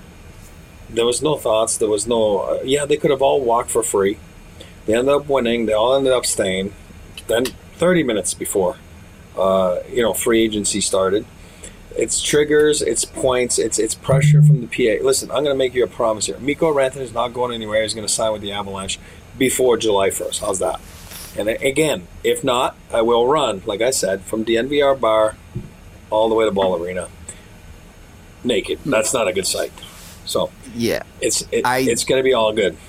There was no thoughts. There was no... Uh, yeah, they could have all walked for free. They ended up winning. They all ended up staying. Then thirty minutes before, uh, you know, free agency started. It's triggers, it's points, it's it's pressure from the P A. Listen, I'm going to make you a promise here. Mikko Rantanen is not going anywhere. He's going to sign with the Avalanche before July first. How's that? And again, if not, I will run, like I said, from D N V R bar all the way to Ball Arena. Naked. That's not a good sight. So yeah, it's it, I, it's going to be all good.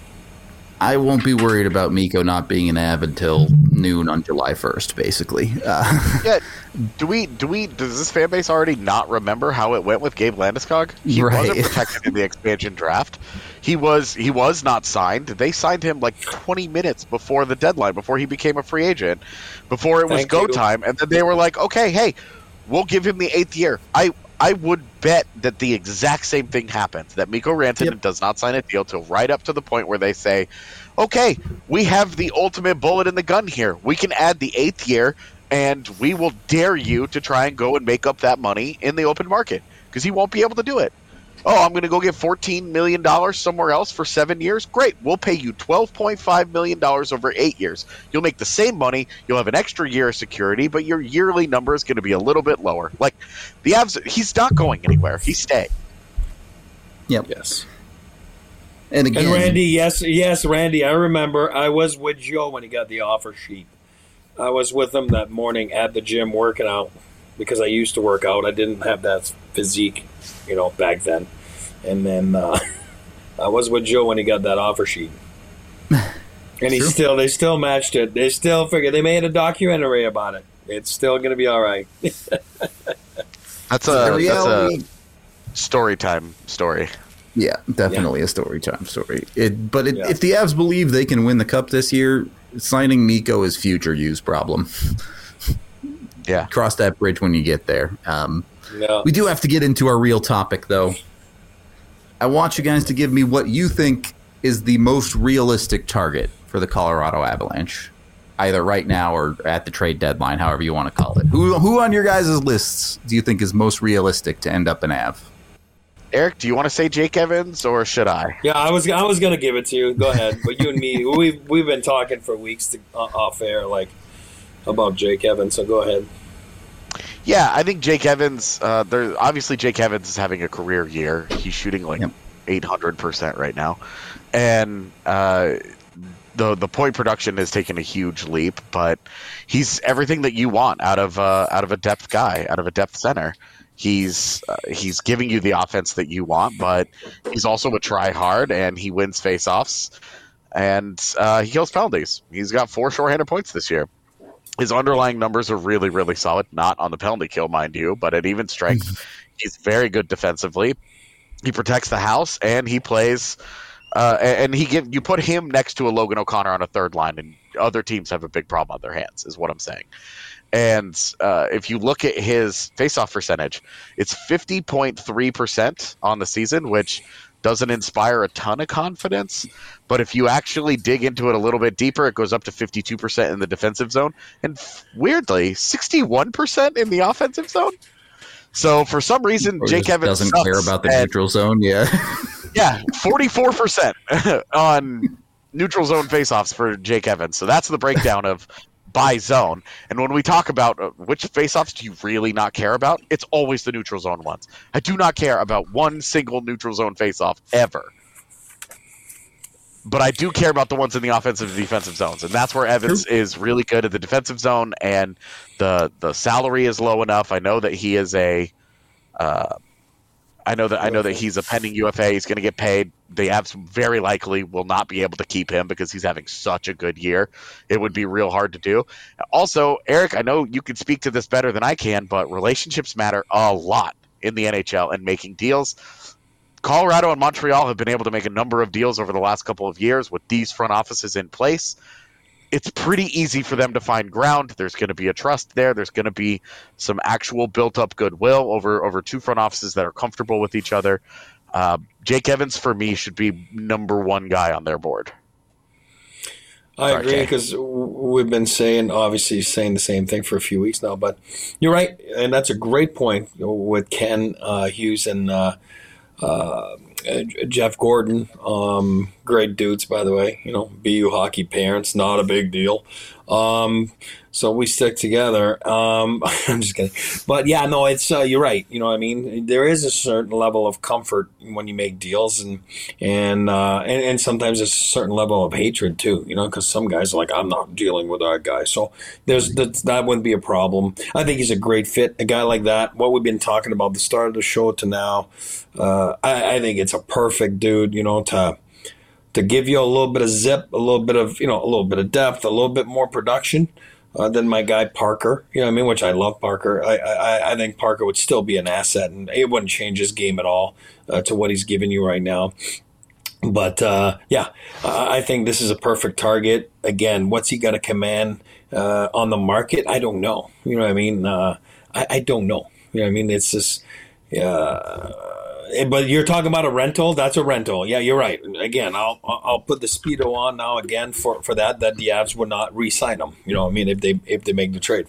I won't be worried about Mikko not being an Av until noon on July first, basically. Uh, yeah, do we do we does this fan base already not remember how it went with Gabe Landeskog? He right. wasn't protected in the expansion draft. He was he was not signed. They signed him like twenty minutes before the deadline, before he became a free agent, before it was Thank go you. time, and then they were like, okay, hey, we'll give him the eighth year. I I would bet that the exact same thing happens, that Mikko Rantanen yep. does not sign a deal till right up to the point where they say, okay, we have the ultimate bullet in the gun here. We can add the eighth year, and we will dare you to try and go and make up that money in the open market because he won't be able to do it. Oh, I'm going to go get fourteen million dollars somewhere else for seven years? Great. We'll pay you twelve point five million dollars over eight years. You'll make the same money. You'll have an extra year of security, but your yearly number is going to be a little bit lower. Like, the Avs, he's not going anywhere. He's staying. Yep. Yes. And again, and Randy, yes, yes, Randy, I remember I was with Joe when he got the offer sheet. I was with him that morning at the gym working out because I used to work out. I didn't have that physique, you know, back then. And then uh, I was with Joe when he got that offer sheet. And he True. still, they still matched it. They still figured, they made a documentary about it. It's still going to be all right. That's The a, reality- that's a story time story. yeah, definitely a story time story. It, but it, Yeah. if the Avs believe they can win the cup this year, signing Mikko is future use problem. Yeah. Cross that bridge when you get there. Um, No. We do have to get into our real topic, though. I want you guys to give me what you think is the most realistic target for the Colorado Avalanche, either right now or at the trade deadline, however you want to call it. Who who on your guys' lists do you think is most realistic to end up an Av? Eric, do you want to say Jake Evans or should I? Yeah, I was I was gonna give it to you. Go ahead. But you and me, we've we've been talking for weeks to, uh, off air, like about Jake Evans. So go ahead. Yeah, I think Jake Evans. Uh, there obviously Jake Evans is having a career year. He's shooting like Yep. eight hundred percent right now, and uh, the the point production has taken a huge leap. But he's everything that you want out of uh, out of a depth guy, out of a depth center. He's uh, he's giving you the offense that you want, but he's also a try hard, and he wins faceoffs, and uh, he kills penalties. He's got four shorthanded points this year. His underlying numbers are really, really solid. Not on the penalty kill, mind you, but at even strength, he's very good defensively. He protects the house, and he plays. Uh, and he give you put him next to a Logan O'Connor on a third line, and other teams have a big problem on their hands, is what I'm saying. And uh, if you look at his faceoff percentage, it's fifty point three percent on the season, which doesn't inspire a ton of confidence. But if you actually dig into it a little bit deeper, it goes up to fifty-two percent in the defensive zone. And weirdly, sixty-one percent in the offensive zone. So for some reason, Or Jake just Evans doesn't sucks. care about the And- neutral zone. Yeah. yeah, forty-four percent on neutral zone faceoffs for Jake Evans. So that's the breakdown of by zone. And when we talk about uh, which faceoffs do you really not care about, it's always the neutral zone ones. I do not care about one single neutral zone faceoff ever. But I do care about the ones in the offensive and defensive zones. And that's where Evans is really good at the defensive zone, and the the salary is low enough. I know that he is a uh, I know that I know that he's a pending U F A. He's going to get paid. The Avs very likely will not be able to keep him because he's having such a good year. It would be real hard to do. Also, Eric, I know you can speak to this better than I can, but relationships matter a lot in the N H L and making deals. Colorado and Montreal have been able to make a number of deals over the last couple of years with these front offices in place. It's pretty easy for them to find ground. There's going to be a trust there. There's going to be some actual built-up goodwill over, over two front offices that are comfortable with each other. Uh, Jake Evans, for me, should be number one guy on their board. I Sorry, agree Jay. because we've been saying, obviously, saying the same thing for a few weeks now. But you're right, and that's a great point with Ken uh, Hughes and uh, uh, Jeff Gordon. Um, great dudes, by the way. You know, B U hockey parents, not a big deal. Um, so we stick together. Um, I'm just kidding. But yeah, no, it's uh, you're right. You know what I mean? There is a certain level of comfort when you make deals, and and uh, and, and sometimes there's a certain level of hatred too. You know, because some guys are like, I'm not dealing with that guy. So there's that, that wouldn't be a problem. I think he's a great fit. A guy like that. What we've been talking about the start of the show to now, uh, I, I think it's a perfect dude. You know, to to give you a little bit of zip, a little bit of, you know, a little bit of depth, a little bit more production uh, than my guy Parker. You know what I mean? Which I love Parker. I, I, I think Parker would still be an asset, and it wouldn't change his game at all uh, to what he's giving you right now. But, uh, yeah, I think this is a perfect target. Again, what's he got to command uh, on the market? I don't know. You know what I mean? Uh, I, I don't know. You know what I mean? It's just, uh, but you're talking about a rental. That's a rental. Yeah, you're right. Again, I'll I'll put the Speedo on now again for, for that. That the Avs would not re-sign him. You know what I mean? If they if they make the trade for him.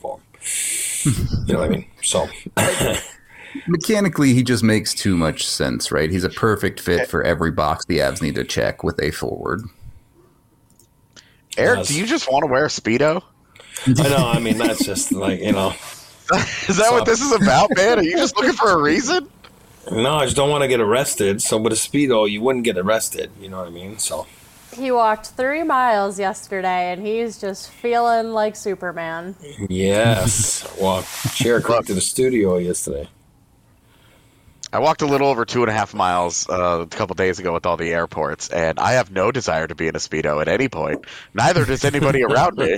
You know what I mean? So mechanically, he just makes too much sense, right? He's a perfect fit for every box the Avs need to check with a forward. Eric, Yes. do you just want to wear a Speedo? I know. I mean, that's just like, you know. Is that what this is about, man? Are you just looking for a reason? No, I just don't want to get arrested. So with a Speedo, you wouldn't get arrested. You know what I mean? So He walked three miles yesterday, and he's just feeling like Superman. yes. Well, chair crept to the studio yesterday. I walked a little over two and a half miles uh, a couple days ago with all the airports, and I have no desire to be in a Speedo at any point. Neither does anybody around me.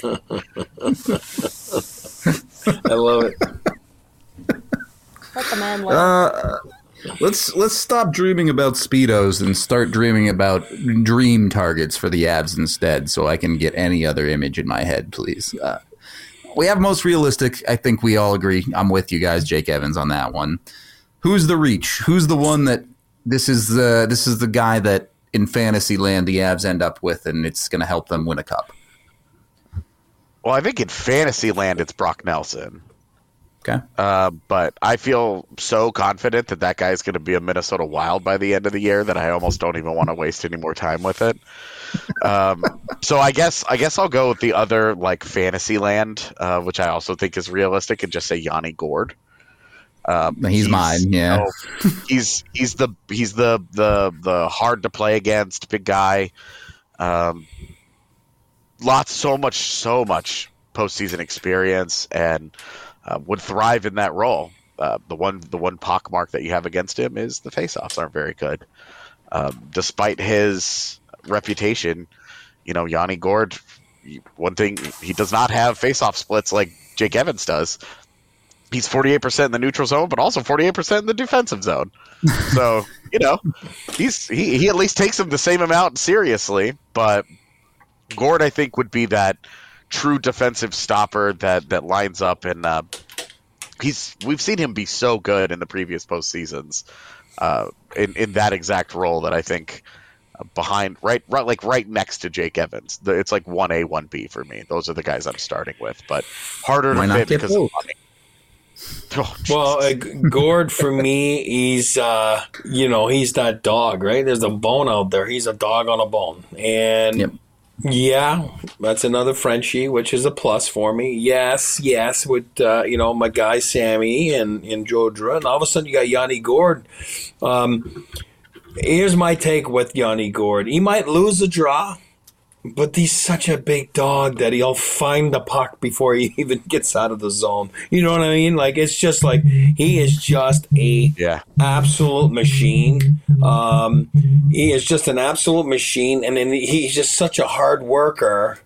I love it. Let the man live. Uh, let's let's stop dreaming about Speedos and start dreaming about dream targets for the Avs instead, so I can get any other image in my head, please. Uh, we have most realistic. I think we all agree. I'm with you guys, Jake Evans, on that one. Who's the reach? Who's the one that this is the this is the guy that in fantasy land the Avs end up with, and it's going to help them win a cup? Well, I think in fantasy land it's Brock Nelson. Okay. Uh, but I feel so confident that that guy's going to be a Minnesota Wild by the end of the year that I almost don't even want to waste any more time with it. Um, so I guess I guess I'll go with the other like fantasy land, uh, which I also think is realistic, and just say Yanni Gourde. Um, He's mine, yeah. you know, he's he's the he's the the the hard to play against big guy. Um, lots, so much, so much postseason experience, and uh, would thrive in that role. Uh, the one the one pockmark that you have against him is the faceoffs aren't very good. Um, despite his reputation, you know, Yanni Gourde, one thing, he does not have faceoff splits like Jake Evans does. He's forty-eight percent in the neutral zone, but also forty-eight percent in the defensive zone. So, you know, he's he, he at least takes him the same amount seriously. But Gourde, I think, would be that true defensive stopper that, that lines up. And uh, he's we've seen him be so good in the previous postseasons uh, in, in that exact role that I think uh, behind, right, right, like right next to Jake Evans. The, it's like one A, one B for me. Those are the guys I'm starting with. But harder Why to not fit get because of both? money. Oh, Well, uh, Gourde for me, he's uh, you know, he's that dog, right? There's a bone out there. He's a dog on a bone, and Yep. yeah, that's another Frenchie, which is a plus for me. Yes, yes, with uh, you know, my guy Sammy and and Jodra, and all of a sudden you got Yanni Gourde. Um, here's my take with Yanni Gourde: he might lose the draw, but he's such a big dog that he'll find the puck before he even gets out of the zone. You know what I mean? Like, it's just like he is just a yeah. absolute machine. Um, he is just an absolute machine, and then he's just such a hard worker.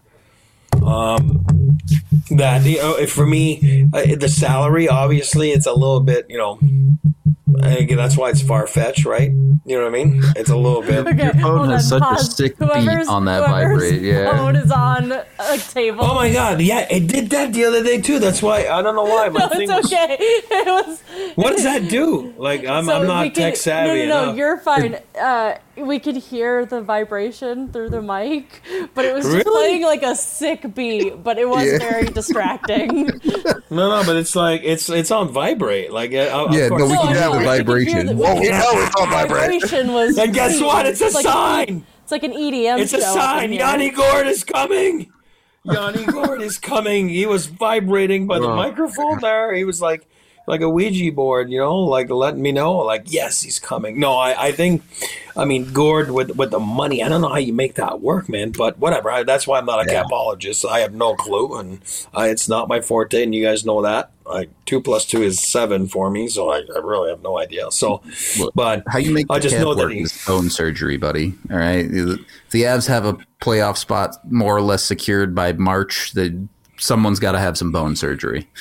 Um, that you know, for me, uh, the salary obviously it's a little bit, you know. Again, that's why it's far fetched, right? You know what I mean? It's a little bit. Okay, Your phone hold has on, such a pause. sick beat Whoever's- on that whoever's vibrate, yeah. phone is on a table. Oh my god! Yeah, it did that the other day too. That's why I don't know why my No, thing it's was. okay. It was. What does that do? Like I'm, So I'm we not could- tech savvy No, no, no, enough. you're fine. Uh, we could hear the vibration through the mic, but it was just Really? playing like a sick beat, but it was Yeah. very distracting. No, no, but it's like it's it's on vibrate. Like uh, of Yeah, course. no, we No, can hear no, the we could hear vibration. the- we Oh, could we hear know the it's on vibration. vibration was. And guess what? It's a like sign. It's like an E D M. It's a show up sign. in here. Yanni Gourde is coming. Yanni Gourde is coming. He was vibrating by the Oh. microphone there. He was like like a Ouija board, you know, like letting me know, like, yes, he's coming. No, I, I think, I mean, Gourde with with the money, I don't know how you make that work, man, but whatever. I, that's why I'm not a Yeah. capologist. I have no clue, and I, it's not my forte, and you guys know that. Like, two plus two is seven for me, so I, I really have no idea. So, Look, but how you make I the just cap know that work he- is bone surgery, buddy. All right, if the Avs have a playoff spot more or less secured by March, that someone's got to have some bone surgery.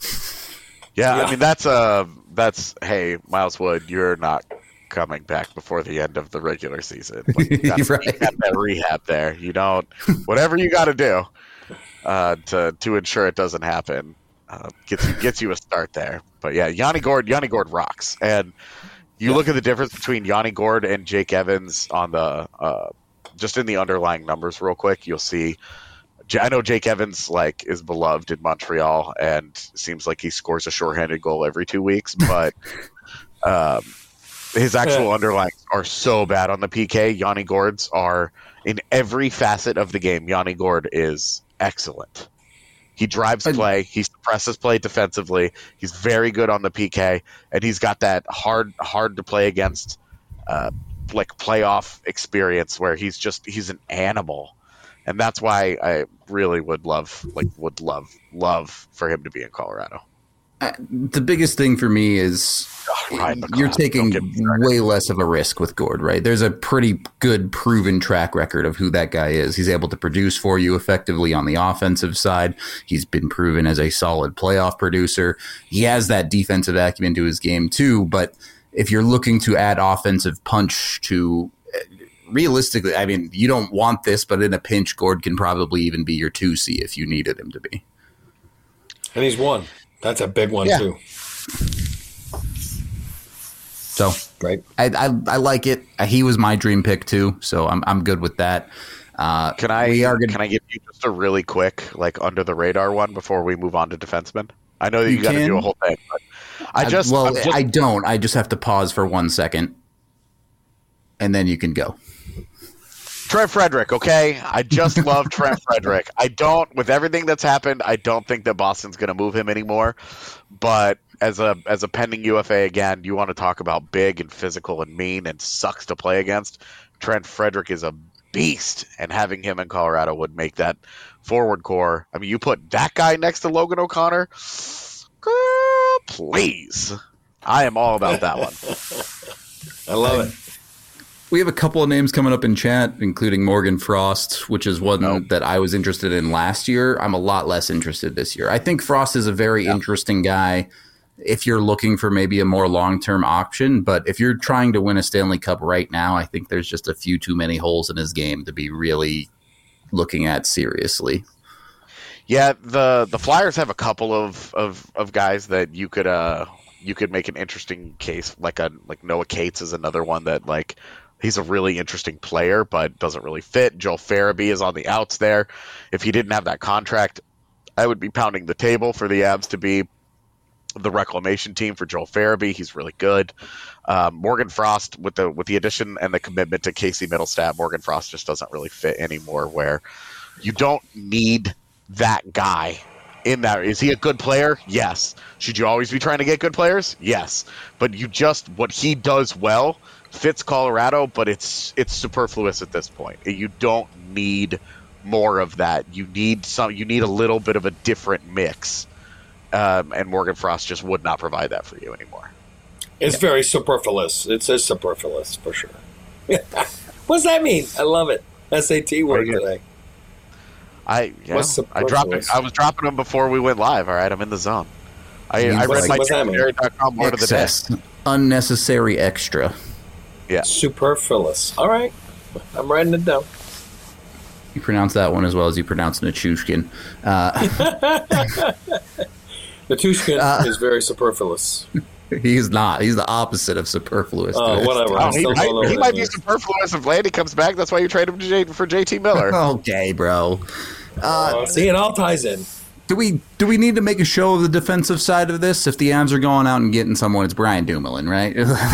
Yeah, Yeah. I mean that's uh that's hey Miles Wood, you're not coming back before the end of the regular season. Like, you gotta, Right. you got that rehab there. You don't whatever you got to do uh, to to ensure it doesn't happen. Uh, gets you gets you a start there. But yeah, Yanni Gourde, Yanni Gourde rocks. And you look at the difference between Yanni Gourde and Jake Evans on the uh, just in the underlying numbers real quick. You'll see I know Jake Evans like is beloved in Montreal and seems like he scores a shorthanded goal every two weeks, but um, his actual underlines are so bad on the P K. Yanni Gourde's are in every facet of the game. Yanni Gourde is excellent. He drives play. He suppresses play defensively. He's very good on the P K, and he's got that hard, hard to play against, uh, like playoff experience where he's just he's an animal, and that's why I really would love, like, would love, love for him to be in Colorado. Uh, the biggest thing for me is oh, you're taking way less of a risk with Gourde, right? There's a pretty good proven track record of who that guy is. He's able to produce for you effectively on the offensive side. He's been proven as a solid playoff producer. He has that defensive acumen to his game too, but if you're looking to add offensive punch to realistically, I mean, you don't want this, but in a pinch, Gourde can probably even be your two C if you needed him to be. And he's one. That's a big one, yeah. too. So, right. I, I I like it. He was my dream pick, too, so I'm I'm good with that. Uh, can I we are gonna, can I give you just a really quick, like, under-the-radar one before we move on to defensemen? I know that you, you got to do a whole thing, but I just... I, well, just, I don't. I just have to pause for one second, and then you can go. Trent Frederick, okay? I just love Trent Frederick. I don't, with everything that's happened, I don't think that Boston's going to move him anymore. But as a as a pending U F A, again, you want to talk about big and physical and mean and sucks to play against. Trent Frederick is a beast, and having him in Colorado would make that forward core. I mean, you put that guy next to Logan O'Connor, girl, please. I am all about that one. I love it. We have a couple of names coming up in chat, including Morgan Frost, which is one nope. that I was interested in last year. I'm a lot less interested this year. I think Frost is a very yeah. interesting guy if you're looking for maybe a more long-term option. But if you're trying to win a Stanley Cup right now, I think there's just a few too many holes in his game to be really looking at seriously. Yeah, the the Flyers have a couple of, of, of guys that you could uh you could make an interesting case. Like a like Noah Cates is another one that like. He's a really interesting player, but doesn't really fit. Joel Farabee is on the outs there. If he didn't have that contract, I would be pounding the table for the Avs to be the reclamation team for Joel Farabee. He's really good. Um, Morgan Frost, with the with the addition and the commitment to Casey Middlestat, Morgan Frost just doesn't really fit anymore, where you don't need that guy in that. Is he a good player? Yes. Should you always be trying to get good players? Yes. But you just, what he does well fits Colorado, but it's it's superfluous at this point. You don't need more of that. You need some. You need a little bit of a different mix, um, and Morgan Frost just would not provide that for you anymore. It's yeah. very superfluous. It says superfluous for sure. What's that mean? I love it. S A T word today. I yeah, I dropped it. I was dropping them before we went live. All right, I'm in the zone. I, I read like, my dictionary dot com word of the day. Unnecessary extra. Yeah. Superfluous. All right. I'm writing it down. You pronounce that one as well as you pronounce Nichushkin. Uh, Nichushkin uh, is very superfluous. He's not. He's the opposite of superfluous. Oh, whatever. Oh, he might, he might be superfluous if Landy comes back. That's why you trade him to J- for J T Miller. Okay, bro. Uh, oh, see, it all ties in. Do we do we need to make a show of the defensive side of this? If the Avs are going out and getting someone, it's Brian Dumoulin, right?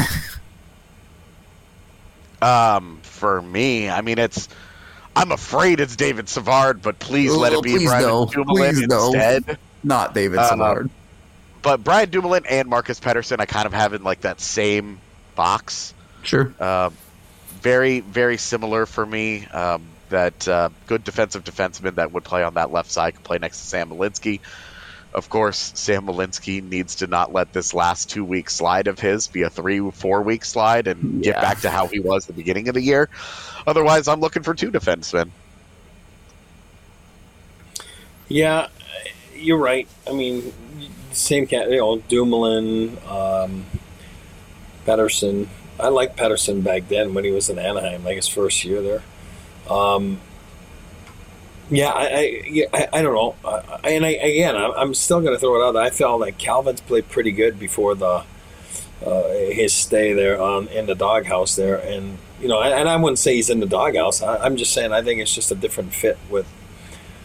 Um, for me, I mean, it's. I'm afraid it's David Savard, but please let it be please Brian no. Dumoulin please instead. No. Not David uh, Savard. But Brian Dumoulin and Marcus Pettersson, I kind of have in like that same box. Sure. Um, very, very similar for me. Um, that uh, good defensive defenseman that would play on that left side, could play next to Sam Malinsky. Of course, Sam Malinsky needs to not let this last two-week slide of his be a three, four-week slide and yeah. get back to how he was at the beginning of the year. Otherwise, I'm looking for two defensemen. Yeah, you're right. I mean, same cat, you know, Dumoulin, um, Pettersson. I liked Pettersson back then when he was in Anaheim, like his first year there. Um, Yeah, I, I, yeah, I, I don't know, uh, and I, again, I'm still going to throw it out. I felt like Calvin's played pretty good before the uh, his stay there on in the doghouse there, and you know, and I wouldn't say he's in the doghouse. I, I'm just saying I think it's just a different fit with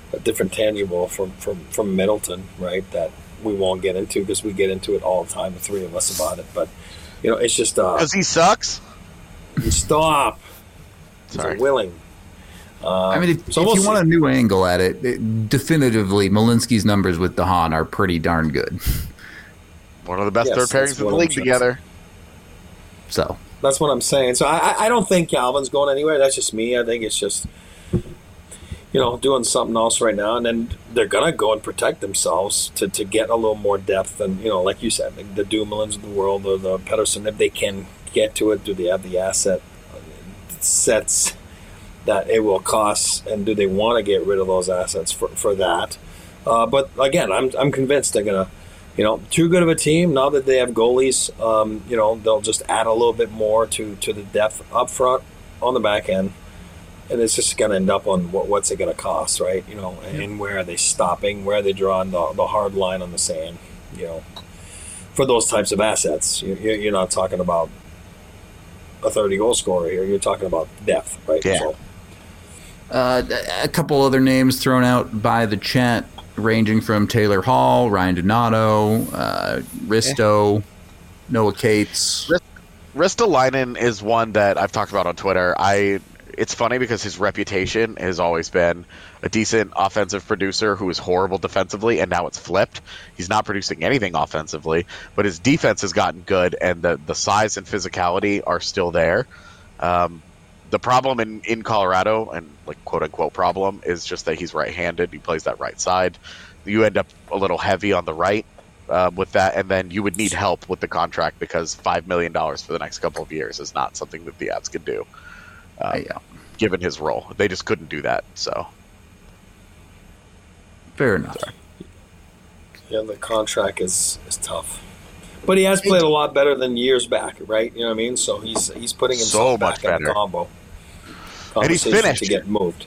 a different tangible from, from, from Middleton, right? That we won't get into because we get into it all the time, the three of us, about it. But, you know, it's just... Because uh, he sucks? Stop. Sorry. He's willing. Uh, I mean, if, so if we'll you see. want a new angle at it, it, definitively, Malinsky's numbers with DeHaan are pretty darn good. One of the best Yes, third pairings that's in the what league I'm together. So That's what I'm saying. So I, I don't think Calvin's going anywhere. That's just me. I think it's just, you know, doing something else right now. And then they're going to go and protect themselves to, to get a little more depth. And, you know, like you said, like the Dumoulin's of the world or the Pettersson, if they can get to it, do they have the asset sets that it will cost? And do they want to get rid of those assets for, for that? Uh, but, again, I'm, I'm convinced they're going to, you know, too good of a team. Now that they have goalies, um, you know, they'll just add a little bit more to, to the depth up front on the back end. And it's just going to end up on what, what's it going to cost, right? You know, and, and where are they stopping? Where are they drawing the, the hard line on the sand? You know, for those types of assets, you, you're not talking about a thirty goal scorer here. You're talking about depth, right? Yeah. So, uh, a couple other names thrown out by the chat, ranging from Taylor Hall, Ryan Donato, uh, Risto, Noah Cates. Ristolainen is one that I've talked about on Twitter. I. It's funny because his reputation has always been a decent offensive producer who is horrible defensively, and now it's flipped. He's not producing anything offensively, but his defense has gotten good, and the, the size and physicality are still there. Um, the problem in, in Colorado, and like quote-unquote problem, is just that he's right-handed. He plays that right side. You end up a little heavy on the right uh, with that, and then you would need help with the contract because five million dollars for the next couple of years is not something that the Avs could do. Um, yeah. Given his role, they just couldn't do that. So, fair enough. yeah, the contract is, is tough. But he has played a lot better than years back, right? You know what I mean? So he's he's putting himself So back much in better. the combo. And he's Conversation finished. to get moved.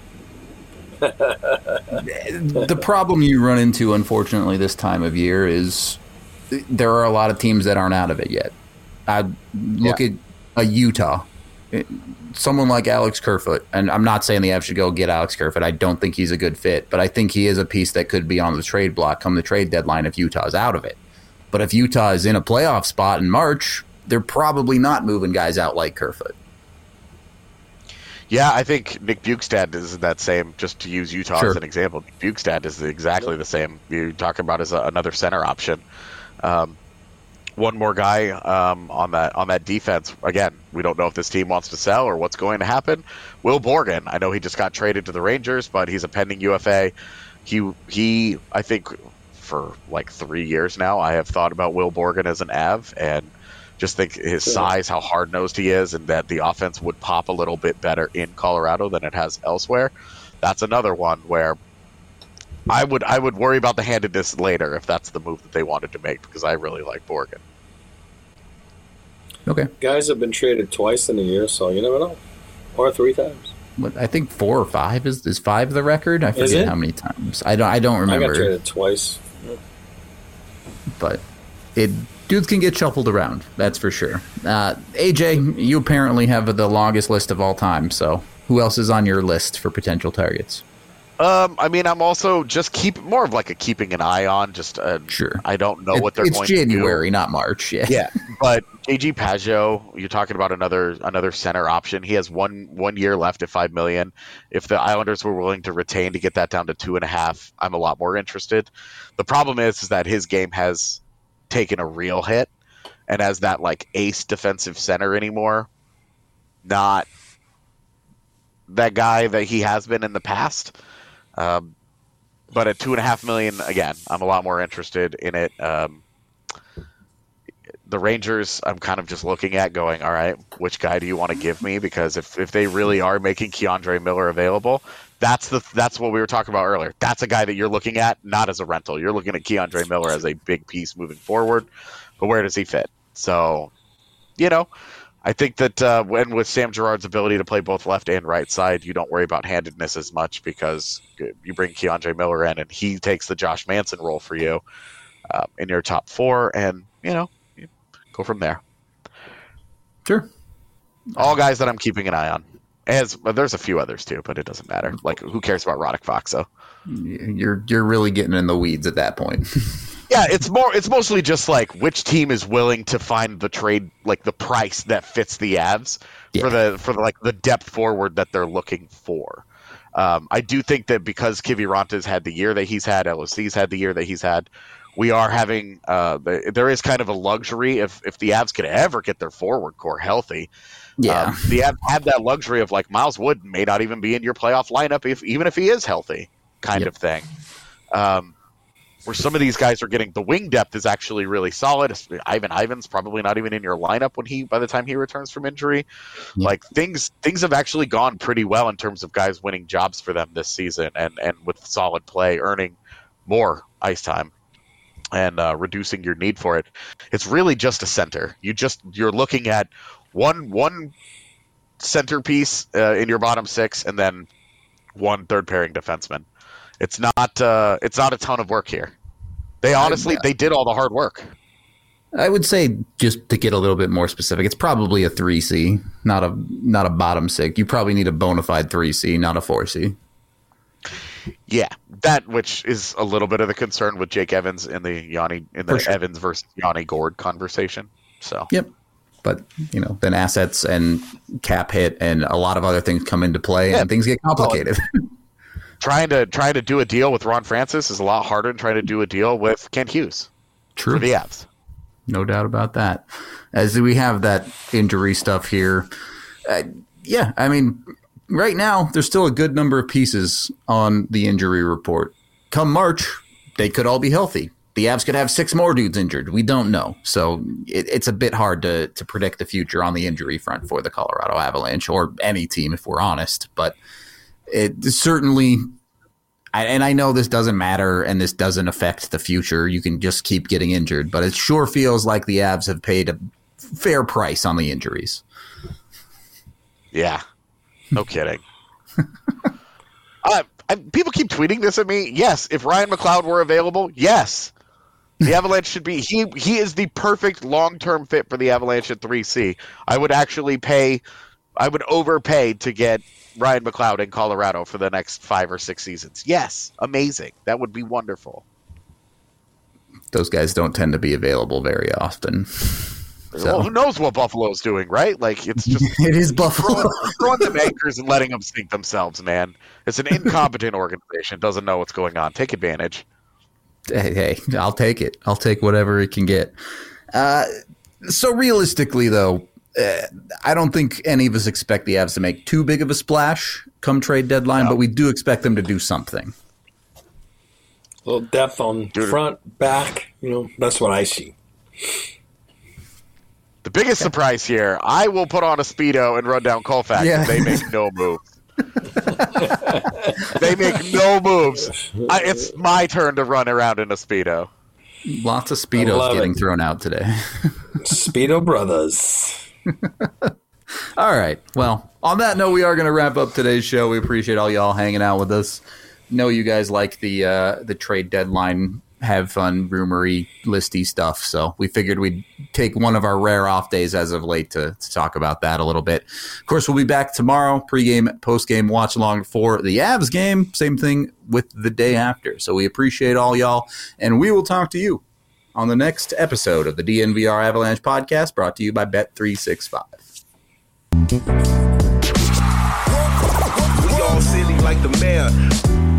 The problem you run into, unfortunately, this time of year is there are a lot of teams that aren't out of it yet. I look Yeah. at a Utah. Someone like Alex Kerfoot, and I'm not saying the Avs should go get Alex Kerfoot. I don't think he's a good fit, but I think he is a piece that could be on the trade block come the trade deadline if Utah's out of it. But if Utah is in a playoff spot in March, they're probably not moving guys out like Kerfoot. yeah, I think Nick Bukestad is that same. Just to use Utah Sure. as an example, Nick Bukestad is exactly the same. You're talking about as a, another center option. Um, one more guy um, on that on that defense. Again, we don't know if this team wants to sell or what's going to happen. Will Borgen, I know he just got traded to the Rangers, but he's a pending U F A. He he, I think for like three years now, I have thought about Will Borgen as an Av, and just think his size, how hard nosed he is, and that the offense would pop a little bit better in Colorado than it has elsewhere. That's another one where I would I would worry about the handedness later if that's the move that they wanted to make, because I really like Borgen. Okay. Guys have been traded twice in a year, so you never know. Or three times. What, I think four or five is is five the record. I Is forget it? how many times. I don't. I don't I remember. got traded twice. But it dudes can get shuffled around. That's for sure. Uh, A J, you apparently have the longest list of all time. So who else is on your list for potential targets? Um, I mean, I'm also just keep more of like a keeping an eye on. Just uh, Sure. I don't know It- what they're it's going January, to not March. Yeah. do. Yeah, but J G Pajot, you're talking about another another center option. He has one one year left at five million. If the Islanders were willing to retain to get that down to two and a half, I'm a lot more interested. The problem is, is that his game has taken a real hit, and as that like ace defensive center anymore, not that guy that he has been in the past. Um, but at two and a half million, again, I'm a lot more interested in it. Um, the Rangers, I'm kind of just looking at going, all right, which guy do you want to give me? Because if, if they really are making Keandre Miller available, that's the that's what we were talking about earlier. That's a guy that you're looking at, not as a rental. You're looking at Keandre Miller as a big piece moving forward. But where does he fit? So, you know, I think that uh, when with Sam Girard's ability to play both left and right side, you don't worry about handedness as much because you bring Keandre Miller in and he takes the Josh Manson role for you uh, in your top four, and you know, you go from there. Sure. All guys that I'm keeping an eye on. As well, there's a few others too, but it doesn't matter. Like, who cares about Radek Fakso? You're you're really getting in the weeds at that point. Yeah, it's more. It's mostly just like which team is willing to find the trade, like the price that fits the Avs yeah. for the for the, like the depth forward that they're looking for. Um, I do think that because Kiviranta's had the year that he's had, L O C's had the year that he's had, we are having uh, there is kind of a luxury if if the Avs could ever get their forward core healthy. Yeah, um, the Avs have that luxury of like Miles Wood may not even be in your playoff lineup if even if he is healthy, kind yep. of thing. Um, where some of these guys are getting the wing depth is actually really solid. Ivan Ivan's probably not even in your lineup when he by the time he returns from injury. Yep. Like things things have actually gone pretty well in terms of guys winning jobs for them this season and and with solid play, earning more ice time. And uh, reducing your need for it. It's really just a center. You just you're looking at one one centerpiece uh, in your bottom six, and then one third pairing defenseman. It's not uh, it's not a ton of work here. They honestly I, they did all the hard work. I would say, just to get a little bit more specific, it's probably a three C, not a not a bottom six. You probably need a bona fide three C, not a four C. Yeah, that which is a little bit of the concern with Jake Evans in the Yanni in the sure. Evans versus Yanni Gourde conversation. So yep, but you know, then assets and cap hit and a lot of other things come into play, yeah. and things get complicated. Well, trying to trying to do a deal with Ron Francis is a lot harder than trying to do a deal with Kent Hughes. True, for the Avs, no doubt about that. As we have that injury stuff here, uh, yeah, I mean. Right now, there's still a good number of pieces on the injury report. Come March, they could all be healthy. The Avs could have six more dudes injured. We don't know. So it, it's a bit hard to, to predict the future on the injury front for the Colorado Avalanche or any team, if we're honest. But it certainly, and I know this doesn't matter and this doesn't affect the future. You can just keep getting injured. But it sure feels like the Avs have paid a fair price on the injuries. Yeah. No kidding. uh, I, people keep tweeting this at me. Yes, if Ryan McLeod were available, yes. The Avalanche should be. He he is the perfect long-term fit for the Avalanche at three C. I would actually pay, I would overpay to get Ryan McLeod in Colorado for the next five or six seasons. Yes, amazing. That would be wonderful. Those guys don't tend to be available very often. So. Well, who knows what Buffalo's doing, right? Like, it's just it is Buffalo throwing, throwing them anchors and letting them sink themselves, man. It's an incompetent organization, doesn't know what's going on. Take advantage. Hey, hey, I'll take it. I'll take whatever it can get. Uh, so realistically, though, uh, I don't think any of us expect the Avs to make too big of a splash come trade deadline, no. but we do expect them to do something. A little depth on Dude. front, back. You know, that's what I see. The biggest okay. surprise here, I will put on a Speedo and run down Colfax yeah. if they make no moves. They make no moves. I, it's my turn to run around in a Speedo. Lots of Speedos getting it. thrown out today. Speedo brothers. All right. Well, on that note, we are going to wrap up today's show. We appreciate all y'all hanging out with us. Know you guys like the uh, the trade deadline, have fun, rumory, listy stuff. So we figured we'd take one of our rare off days as of late to, to talk about that a little bit. Of course, we'll be back tomorrow, pregame, postgame, watch along for the Avs game. Same thing with the day after. So we appreciate all y'all, and we will talk to you on the next episode of the D N V R Avalanche podcast, brought to you by Bet three sixty-five. We all silly like the mayor.